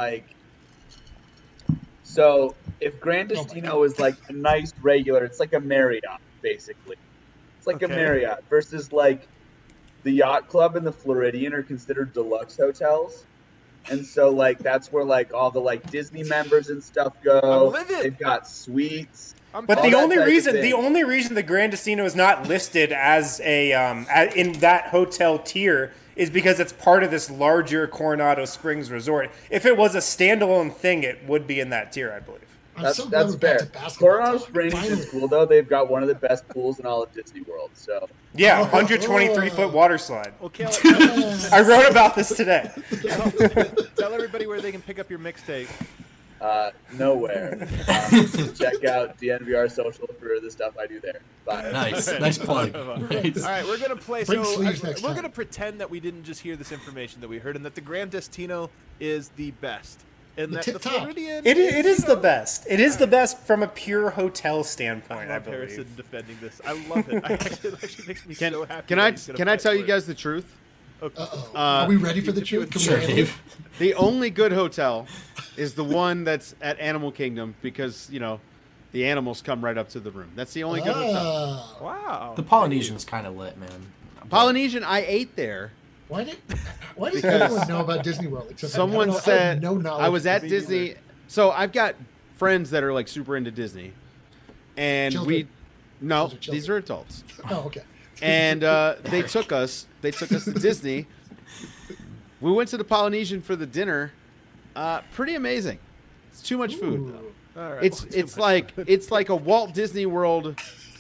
so if Grandestino is a nice regular, it's like a Marriott basically. It's like a Marriott versus the Yacht Club and the Floridian are considered deluxe hotels, and so that's where all the Disney members and stuff go. They've got suites. But the only reason the Grandestino is not listed as in that hotel tier is because it's part of this larger Coronado Springs resort. If it was a standalone thing, it would be in that tier, I believe. That's fair. Coronado Springs is cool though. They've got one of the best pools in all of Disney World. So yeah, 123-foot water slide. Well, Kale, I wrote about this today. Tell everybody where they can pick up your mixtape. Nowhere. Check out DNVR social for the stuff I do there. Bye. Nice plug. Nice. All right, we're gonna play. Bring So sleeves next we're time. gonna pretend that we didn't just hear this information that we heard, and that the Grandestino is the best, and The that tip the top. Floridian It is you the know, best. It is the best from a pure hotel standpoint, I love Harrison believe. defending this. I love it. It actually makes me so happy. Can that I he's gonna can I fight tell for you it. guys the truth? Okay. Are we ready for the truth? Can we Sure, handle it? Dave. The only good hotel is the one that's at Animal Kingdom because the animals come right up to the room. That's the only good hotel. Wow. The Polynesian's kind of lit, man. Polynesian, I ate there. Why does everyone know about Disney World? Except Someone I have said no knowledge I was of at Disney. Disney. So I've got friends that are super into Disney, and Children. no, Those are these are adults. Oh, okay. And they took us to Disney. We went to the Polynesian for the dinner. Pretty amazing. It's too much food though. All right. It's like a Walt Disney World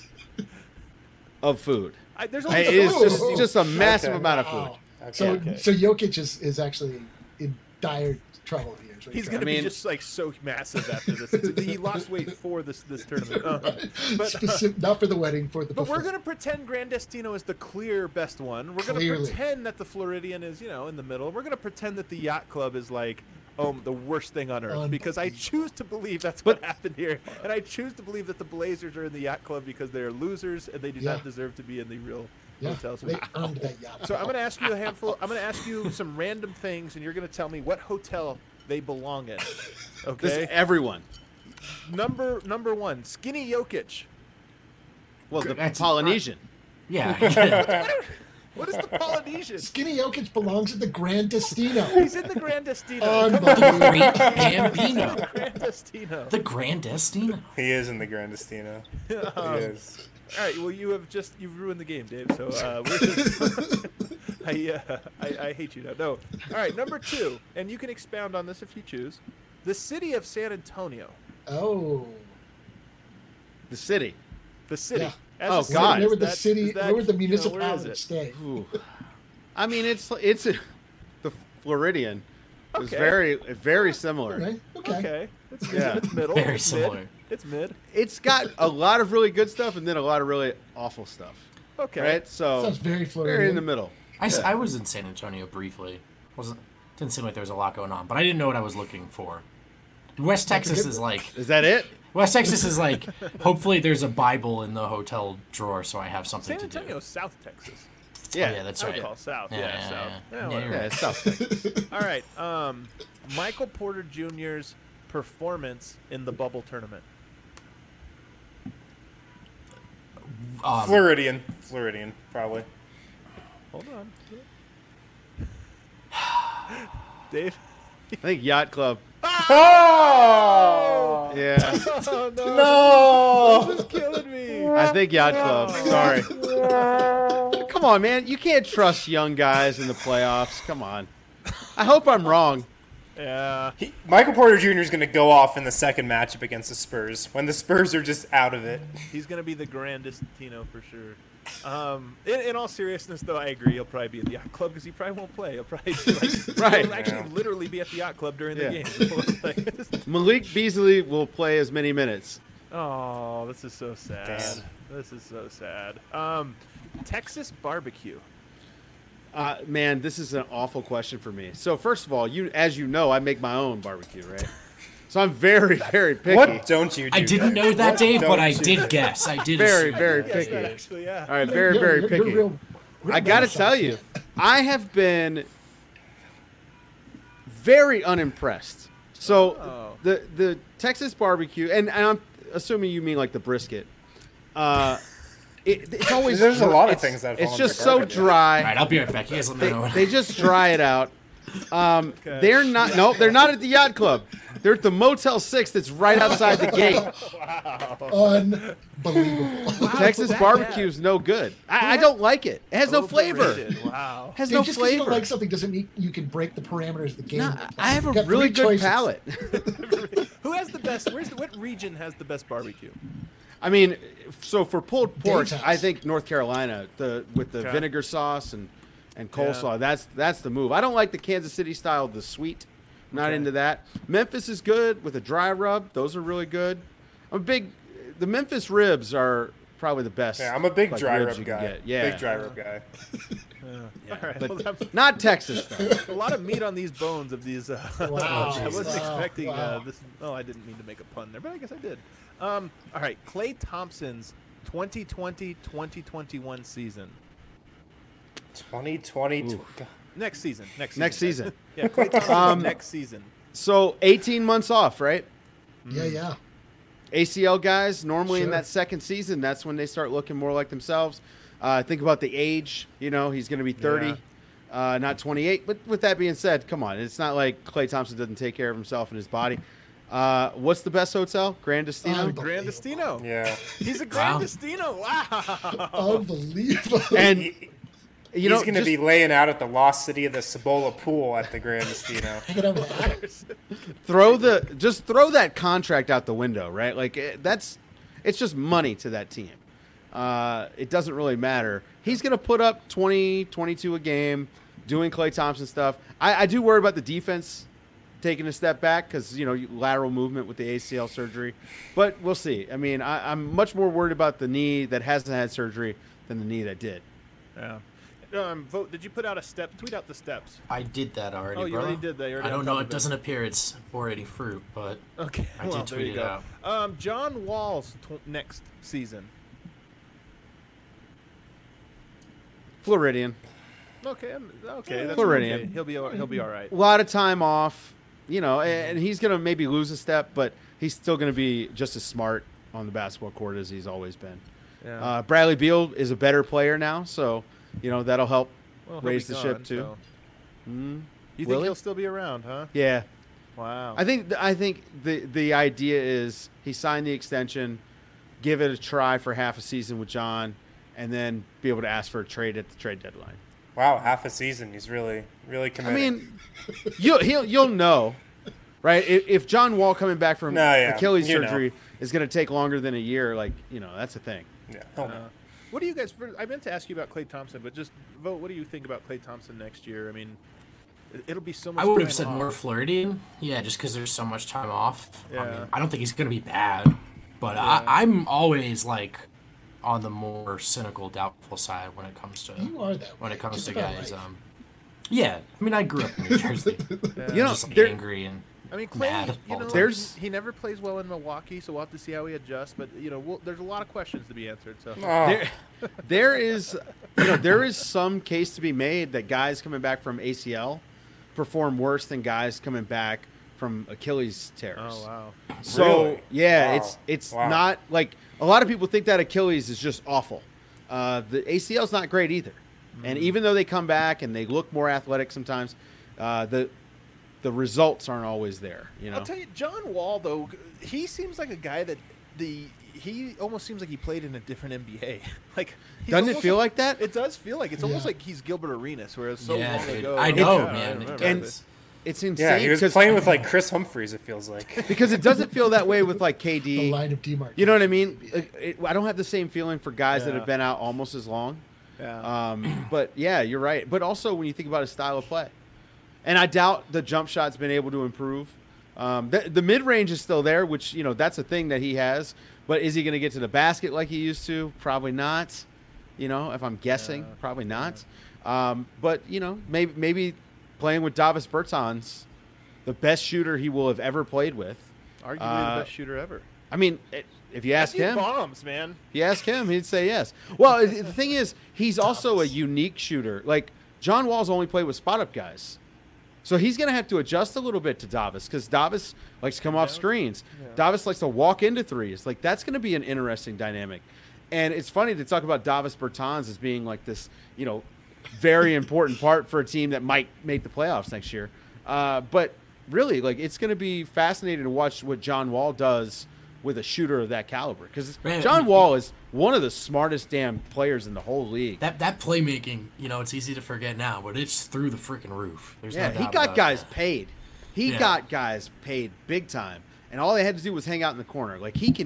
of food. There's It is just a massive amount of food. Wow. So Jokic is actually in dire trouble here. is what He's you're going to trying be just so massive after this. He lost weight for this tournament. Not for the wedding, for the But we're buffet. going to pretend Grandestino is the clear best one. We're going to Clearly. pretend that the Floridian is, in the middle. We're going to pretend that the Yacht Club is the worst thing on earth, because I choose to believe that's what happened here. And I choose to believe that the Blazers are in the Yacht Club because they are losers and they do not deserve to be in the real hotels. They earned that yacht. So I'm going to ask you I'm going to ask you some random things, and you're going to tell me what hotel they belong in. Okay. This, everyone. Number one, Skinny Jokic. Well, the Polynesian. Yeah. What is the Polynesian? Skinny Jokic belongs at the Grandestino. He's in the Grandestino. The Great Bambino. Grandestino. The Grandestino. He is in the Grandestino. He is. All right. Well, you've ruined the game, Dave. So we're just, I hate you now. No. All right. Number two, and you can expound on this if you choose. The city of San Antonio. Oh. The city. The city. Yeah. Oh, God. Where would the city? Where would the municipality it? stay? Ooh. I mean, it's the Floridian. It's Okay. very similar. Okay. Okay. Yeah. It's middle. Very It's similar. Mid. It's mid. It's got a lot of really good stuff and then a lot of really awful stuff. Okay. Right? So Sounds very Floridian. very in the middle. I was in San Antonio briefly. Didn't seem like there was a lot going on, but I didn't know what I was looking for. West Texas is like Is that it? West Texas is like. Hopefully, there's a Bible in the hotel drawer, so I have something San to do. Antonio, South Texas. Yeah. Oh, yeah, that's I right. would call South. Yeah, Yeah, yeah, South. yeah. Yeah, Yeah, whatever. you're Yeah, it's South Texas. All right. Michael Porter Jr.'s performance in the bubble tournament. Floridian, probably. Hold on. Dave? I think Yacht Club. Oh! Yeah. Oh, no. No! This is killing me. I think Yacht Club. Sorry. Come on, man. You can't trust young guys in the playoffs. Come on. I hope I'm wrong. Yeah. Michael Porter Jr. is going to go off in the second matchup against the Spurs when the Spurs are just out of it. He's going to be the Grandestino for sure. In all seriousness, though, I agree. He'll probably be at the yacht club because he probably won't play. He'll probably Right. he'll actually literally be at the yacht club during the game. Malik Beasley will play as many minutes. Oh, this is so sad. Damn. This is so sad. Texas barbecue. Man, this is an awful question for me. So first of all, as you know, I make my own barbecue, right? So I'm very, very picky. What don't you do? I didn't know that, Dave, but I did guess. I did. Very, assume. very Yes, picky. that actually, yeah. All right, very, very You're picky. real I got to Renaissance tell you, fan. I have been very unimpressed. So the Texas barbecue, and I'm assuming you mean like the brisket. It's always There's a lot of it's- things that fall it's under just so garbage. dry. All right, I'll be right back. You guys let me know. They just dry it out. They're not. No, they're not at the yacht club. They're at the Motel 6 that's right outside the gate. Unbelievable. Texas barbecue is no good. I don't like it. It has no flavor. Overrated. Wow. Has Dude, no just because you flavor. don't like something doesn't mean you can break the parameters of the game. No, I have a You've got really three good choices. palate. Who has the best? What region has the best barbecue? I mean, so for pulled pork, Dave's house. I think North Carolina, with the Okay. vinegar sauce and coleslaw, that's the move. I don't like the Kansas City style, the sweet. Not into that. Memphis is good with a dry rub. Those are really good. The Memphis ribs are probably the best. Yeah, I'm a big like, dry ribs rub you can guy. get. Yeah, Big dry rub guy. All right. but Well, that's not Texas though. a lot of meat on these bones of these. Wow. I wasn't Wow. expecting Wow. this. Oh, I didn't mean to make a pun there, but I guess I did. All right, Klay Thompson's 2020-2021 season. 2020. Next season. Next season. Yeah, Klay Thompson next season. So 18 months off, right? Yeah. ACL guys, normally in Sure. that second season, that's when they start looking more like themselves. Think about the age. He's going to be 30, not 28. But with that being said, come on. It's not like Klay Thompson doesn't take care of himself and his body. What's the best hotel? Grand Destino? Grand Destino. Yeah. He's a Grand Destino. Wow. Unbelievable. And, He's going to be laying out at the lost city of the Cibola pool at the Grand Destino. Hanging out with Adams. throw that contract out the window, right? Like it's just money to that team. It doesn't really matter. He's going to put up 20, 22 a game doing Klay Thompson stuff. I do worry about the defense taking a step back because, lateral movement with the ACL surgery. But we'll see. I mean, I'm much more worried about the knee that hasn't had surgery than the knee that did. Yeah. Vote. Did you put out a step? Tweet out the steps. I did that already, Oh, you brother. already did that. You're I already don't on know. top It of doesn't appear it's already fruit, but Okay. I well, did there tweet you it go. out. John Wall's next season. Floridian. Okay. Okay. That's Floridian. okay. He'll be all right. A lot of time off, and he's going to maybe lose a step, but he's still going to be just as smart on the basketball court as he's always been. Yeah. Bradley Beal is a better player now, so, that'll help Well, he'll raise be the gone, ship too. so- You think Will he? he'll still be around, huh? Yeah. Wow. I think the idea is he signed the extension, give it a try for half a season with John, and then be able to ask for a trade at the trade deadline. Wow, half a season. He's really, really committed. I mean, you'll know, right? If John Wall coming back from Achilles surgery is going to take longer than a year, that's a thing. Yeah. He'll know. What do you guys? I meant to ask you about Klay Thompson, but just vote. What do you think about Klay Thompson next year? I mean, it'll be so much. I would have time said off. more Floridian. Yeah, just because there's so much time off. I Yeah. mean, I don't think he's going to be bad, but I'm always on the more cynical, doubtful side when it comes to You are that when way. it comes Just to about guys. life. Yeah, I mean, I grew up in New Jersey. Just angry and I mean, Klay, mad all the time. There's- he never plays well in Milwaukee, so we'll have to see how he adjusts. But there's a lot of questions to be answered. So There is some case to be made that guys coming back from ACL perform worse than guys coming back from Achilles tears. Oh wow. So Really? yeah, Wow. it's Wow. not like a lot of people think that Achilles is just awful. The ACL is not great either, and even though they come back and they look more athletic sometimes, the results aren't always there. I'll tell you, John Wall though, he seems like a guy that he almost seems like he played in a different NBA. He's Doesn't it almost feel like that? It does feel like it's almost like he's Gilbert Arenas, whereas so Yeah, long dude. ago. I know, Yeah, man. I remember And this. it's insane. Yeah, he was playing with like Chris Humphries. It feels like because it doesn't feel that way with like KD. The line of demarcation. You know what I mean? I don't have the same feeling for guys that Yeah. have been out almost as long. Yeah. But yeah, you're right. But also when you think about his style of play, and I doubt the jump shot's been able to improve. The mid range is still there, which that's a thing that he has. But is he going to get to the basket like he used to? Probably not. If I'm guessing, probably not. But maybe playing with Davis Bertans, the best shooter he will have ever played with. Arguably the best shooter ever. I mean, if you ask him, bombs, man. if you ask him, he'd say yes. Well, the thing is, he's also a unique shooter. Like John Wall's only played with spot up guys, so he's going to have to adjust a little bit to Davis because Davis likes to come off screens. Yeah. Davis likes to walk into threes. Like that's going to be an interesting dynamic. And it's funny to talk about Davis Bertans as being like this, very important part for a team that might make the playoffs next year. But really, like it's going to be fascinating to watch what John Wall does with a shooter of that caliber because John Wall is one of the smartest damn players in the whole league. That playmaking, it's easy to forget now, but it's through the freaking roof. There's no doubt he got about guys that. paid. He got guys paid big time, and all they had to do was hang out in the corner. Like he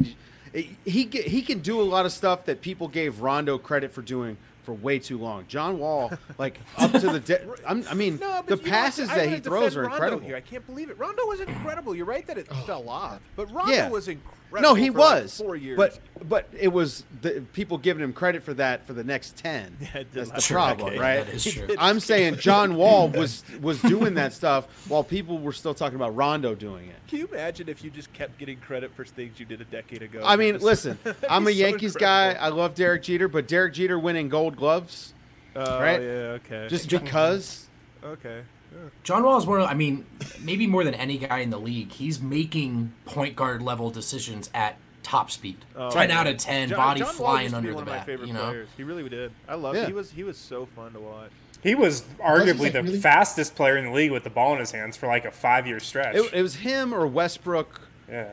can do a lot of stuff that people gave Rondo credit for doing for way too long. John Wall, like up to the the passes that he throws are incredible. Here. I can't believe it. Rondo was incredible. You're right that it fell off, but Rondo was incredible. No, he for was. Like 4 years. But it was the people giving him credit for that for the next 10. That's the problem, right? That is true. I'm saying John Wall was doing that stuff while people were still talking about Rondo doing it. Can you imagine if you just kept getting credit for things you did a decade ago? I mean, listen, I'm a Yankees guy. I love Derek Jeter, but Derek Jeter winning Gold Gloves, right? Yeah, okay. Just because. Okay. John Wall is maybe more than any guy in the league. He's making point guard level decisions at top speed. 10 out of 10, body John flying Wall used to be under one the of my bat. favorite players. He really did. I love it. He was so fun to watch. he was arguably the fastest player in the league with the ball in his hands for like a 5-year stretch. It was him or Westbrook. Yeah.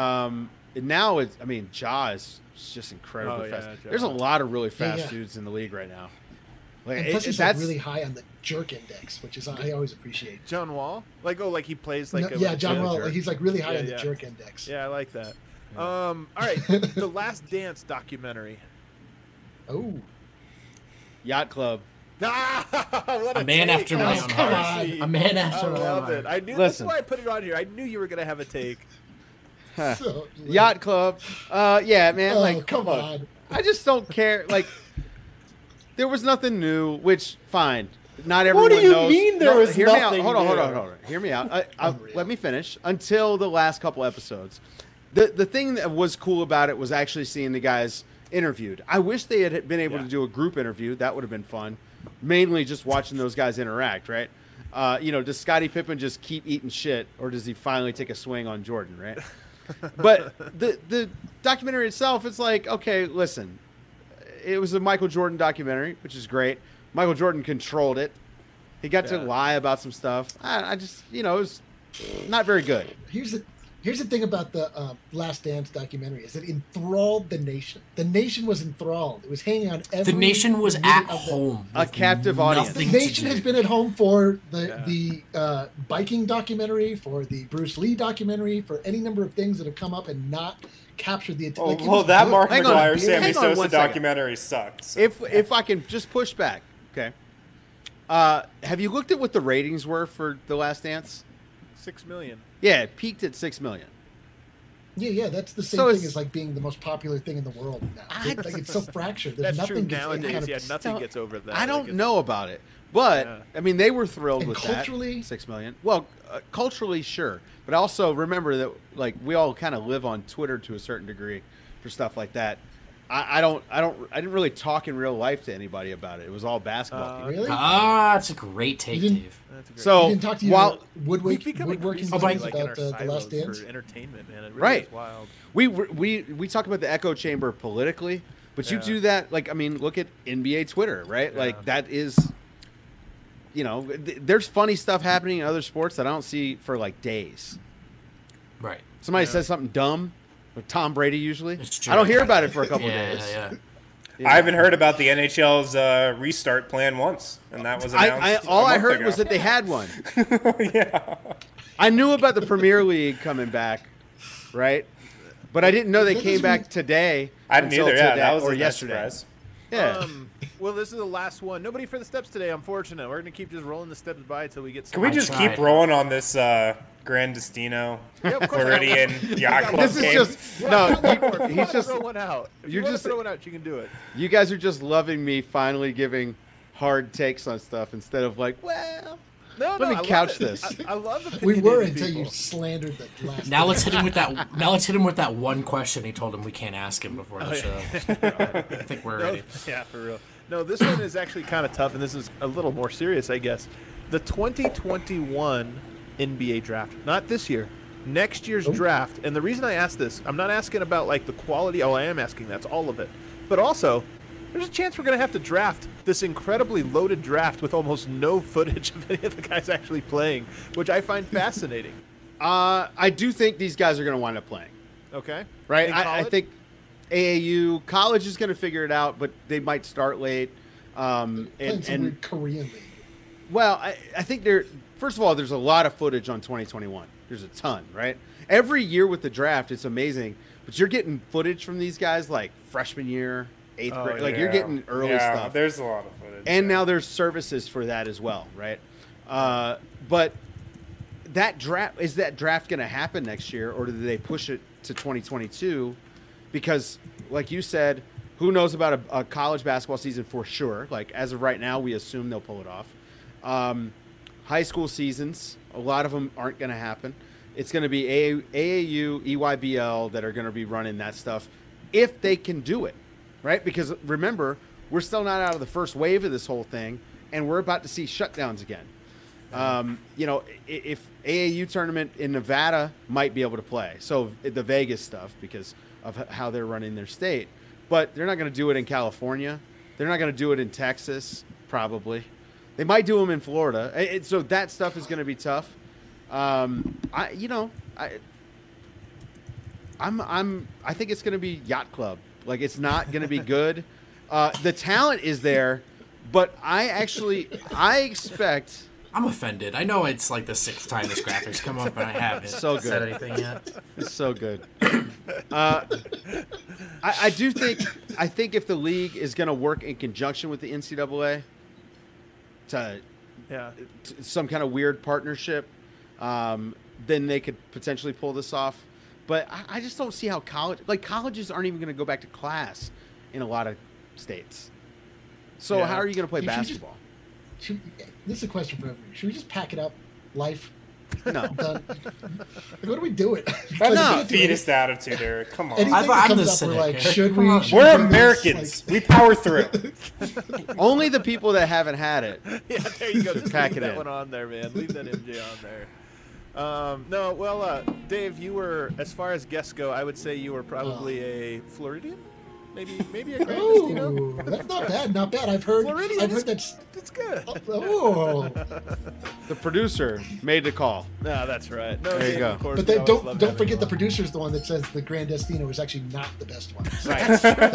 Now Ja is just incredibly fast. Ja. There's a lot of really fast dudes in the league right now. Like, and plus he's like really high on the jerk index, which is I always appreciate. John Wall? Like he plays like John Wall. Like, he's like really high on the jerk index. Yeah, I like that. All right, the Last Dance documentary. Oh. Yacht Club. A man after my own heart. A man after my own heart. I knew that's why I put it on here. I knew you were gonna have a take. Yacht Club. Yeah, man. Oh, come on. I just don't care. Like, there was nothing new, which fine. Not everyone knows. What do you mean there was hear me nothing out. Hold new? on. Hear me out. Let me finish. Until the last couple episodes, the thing that was cool about it was actually seeing the guys interviewed. I wish they had been able to do a group interview. That would have been fun. Mainly just watching those guys interact, right? Does Scottie Pippen just keep eating shit, or does he finally take a swing on Jordan, right? But the documentary itself, it's like, okay, listen, it was a Michael Jordan documentary, which is great. Michael Jordan controlled it. He got to lie about some stuff. I just, it was not very good. Here's the thing about the Last Dance documentary is it enthralled the nation. The nation was enthralled. It was hanging on every. The nation was at home. A captive audience. The nation has been at home for the biking documentary, for the Bruce Lee documentary, for any number of things that have come up and not captured the attention. That Mark McGuire, Sammy Sosa documentary sucks. If I can just push back, okay. Have you looked at what the ratings were for The Last Dance? 6 million. Yeah, it peaked at 6 million. Yeah, that's the same thing as like being the most popular thing in the world now. It's so fractured. There's That's nothing true nowadays. Nothing gets over that. I don't know about it, but I mean, they were thrilled with culturally, that. 6 million. Well, culturally, sure, but also remember that like we all kind of live on Twitter to a certain degree for stuff like that. I didn't really talk in real life to anybody about it. It was all basketball. Really? That's a great take, Dave. So you didn't talk to while woodworking guys about the Last Dance? For entertainment, man. It really right. is wild. We talk about the echo chamber politically, but you do that like, I mean, look at NBA Twitter, right? Yeah. Like that is, there's funny stuff happening in other sports that I don't see for like days. Right. Somebody says something dumb. With Tom Brady usually. I don't hear about it for a couple of days. Yeah. I haven't heard about the NHL's restart plan once, and that was announced. All I heard ago. was that they had one. Yeah. I knew about the Premier League coming back, right? But I didn't know they came back today. I didn't either. Yeah, that was or a nice yesterday. surprise. Yeah. Well, this is the last one. Nobody for the steps today, unfortunate. We're going to keep just rolling the steps by until we get some. Can we just keep rolling on this Grand Destino Floridian Yacht Club This is game? just no. He's just throw one out. If you're you just throw one out. You can do it. You guys are just loving me finally giving hard takes on stuff instead of like, well, No, let me couch this. I love We were opinionated until people. you slandered the last. Now let's hit him with that. Now let's hit him with that one question he told him we can't ask him before the show. I think we're ready. Yeah, for real. No, this one is actually kind of tough, and this is a little more serious, I guess. The 2021 NBA draft, not this year, next year's draft. And the reason I ask this, I'm not asking about like the quality. Oh, I am asking that's all of it. But also, there's a chance we're going to have to draft this incredibly loaded draft with almost no footage of any of the guys actually playing, which I find fascinating. I do think these guys are going to wind up playing. Okay. Right? In I college? think AAU college is going to figure it out, but they might start late. Playing some weird Korean league. Well, I think first of all, there's a lot of footage on 2021. There's a ton, right? Every year with the draft, it's amazing. But you're getting footage from these guys like freshman year, eighth grade. Like you're getting early stuff. There's a lot of footage. And now there's services for that as well, right? But that draft going to happen next year, or do they push it to 2022? Because, like you said, who knows about a college basketball season for sure? Like as of right now, we assume they'll pull it off. High school seasons, a lot of them aren't going to happen. It's going to be AAU, EYBL that are going to be running that stuff if they can do it, right? Because remember, we're still not out of the first wave of this whole thing, and we're about to see shutdowns again. If AAU tournament in Nevada might be able to play, so the Vegas stuff because of how they're running their state, but they're not going to do it in California. They're not going to do it in Texas, probably. They might do them in Florida. So that stuff is going to be tough. I think it's going to be Yacht Club. Like it's not going to be good. The talent is there, but I expect. I'm offended. I know it's like the sixth time this graphics come up, and I haven't so said good. anything yet. It's so good. I think if the league is going to work in conjunction with the NCAA to some kind of weird partnership, then they could potentially pull this off. But I just don't see how colleges aren't even going to go back to class in a lot of states. So how are you going to play basketball? This is a question for everyone. Should we just pack it up? Life? No. Done. What are we doing? That's a defeatist attitude, Eric. Come on. I'm the cynic. Like, should we? We're Americans. We power through. Only the people that haven't had it. Yeah, there you go. Just pack leave it that in. one on there, man. Leave that MJ on there. Dave, you were, as far as guests go, I would say you were probably a Floridian? Maybe a Grand Destino? Oh, that's not bad. Not bad. I've heard that's good. Oh. The producer made the call. No, that's right. No, there you go. of course, But we then always love don't having forget you the on. producer's the one that says the Grand Destino is actually not the best one. Right.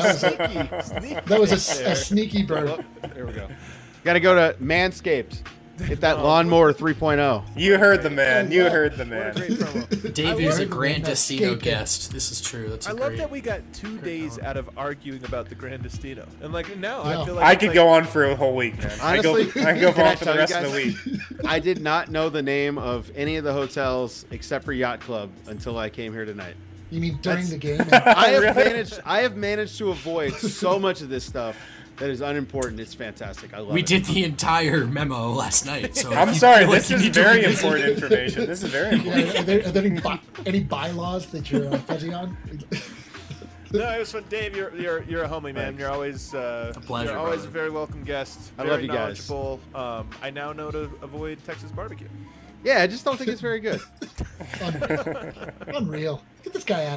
That was a sneaky bird. There we go. Got to go to Manscaped. Hit that lawnmower 3.0. You heard the man. You heard the man. Great promo. Dave is a love Grand that Destino escape. guest. This is true. That's I a love great. that we got 2 days out of arguing about the Grand Destino. And like now Yeah. I feel like I it's could like, go on for a whole week, man. Honestly, I go can I on for tell the you rest of the guys? week. I did not know the name of any of the hotels except for Yacht Club until I came here tonight. You mean during the game? I have managed to avoid so much of this stuff that is unimportant. It's fantastic. I love We it. did the entire memo last night. So I'm if you sorry. feel like This you is need to very revisit important it- information. This is very Yeah, important. are there any bylaws that you're fuzzy on? No, it was fun. Dave, you're a homie, man. Thanks. You're always pleasure, you're always brother. a very welcome guest. I Very love you guys. knowledgeable. I now know to avoid Texas barbecue. Yeah, I just don't think it's very good. Unreal. Get this guy out of here.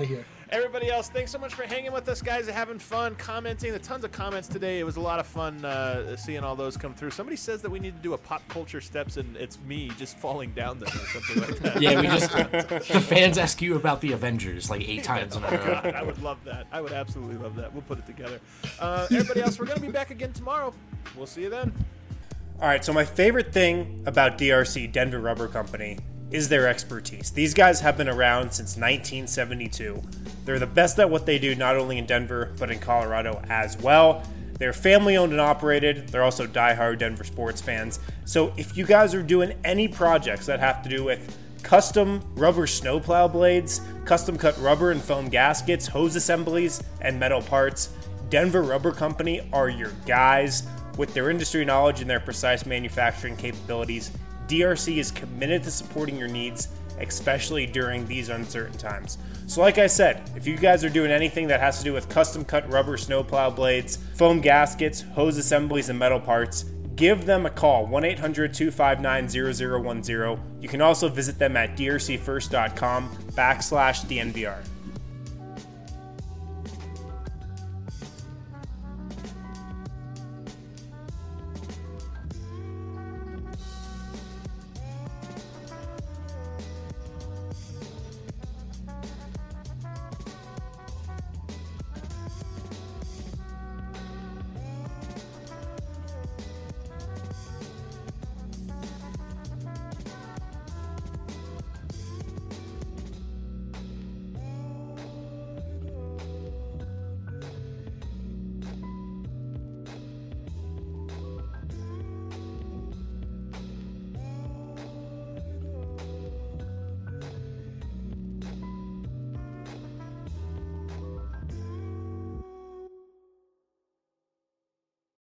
Everybody else, thanks so much for hanging with us, guys, and having fun, commenting. The tons of comments today. It was a lot of fun seeing all those come through. Somebody says that we need to do a pop culture steps, and it's me just falling down them or something like that. Yeah, the fans ask you about the Avengers like 8 times in a row. God, I would love that. I would absolutely love that. We'll put it together. Everybody else, we're going to be back again tomorrow. We'll see you then. All right, so my favorite thing about DRC, Denver Rubber Company, is their expertise. These guys have been around since 1972. They're the best at what they do, not only in Denver, but in Colorado as well. They're family owned and operated. They're also diehard Denver sports fans. So if you guys are doing any projects that have to do with custom rubber snowplow blades, custom cut rubber and foam gaskets, hose assemblies, and metal parts, Denver Rubber Company are your guys. With their industry knowledge and their precise manufacturing capabilities, DRC is committed to supporting your needs, especially during these uncertain times. So like I said, if you guys are doing anything that has to do with custom cut rubber snowplow blades, foam gaskets, hose assemblies, and metal parts, give them a call, 1-800-259-0010. You can also visit them at drcfirst.com/DNVR.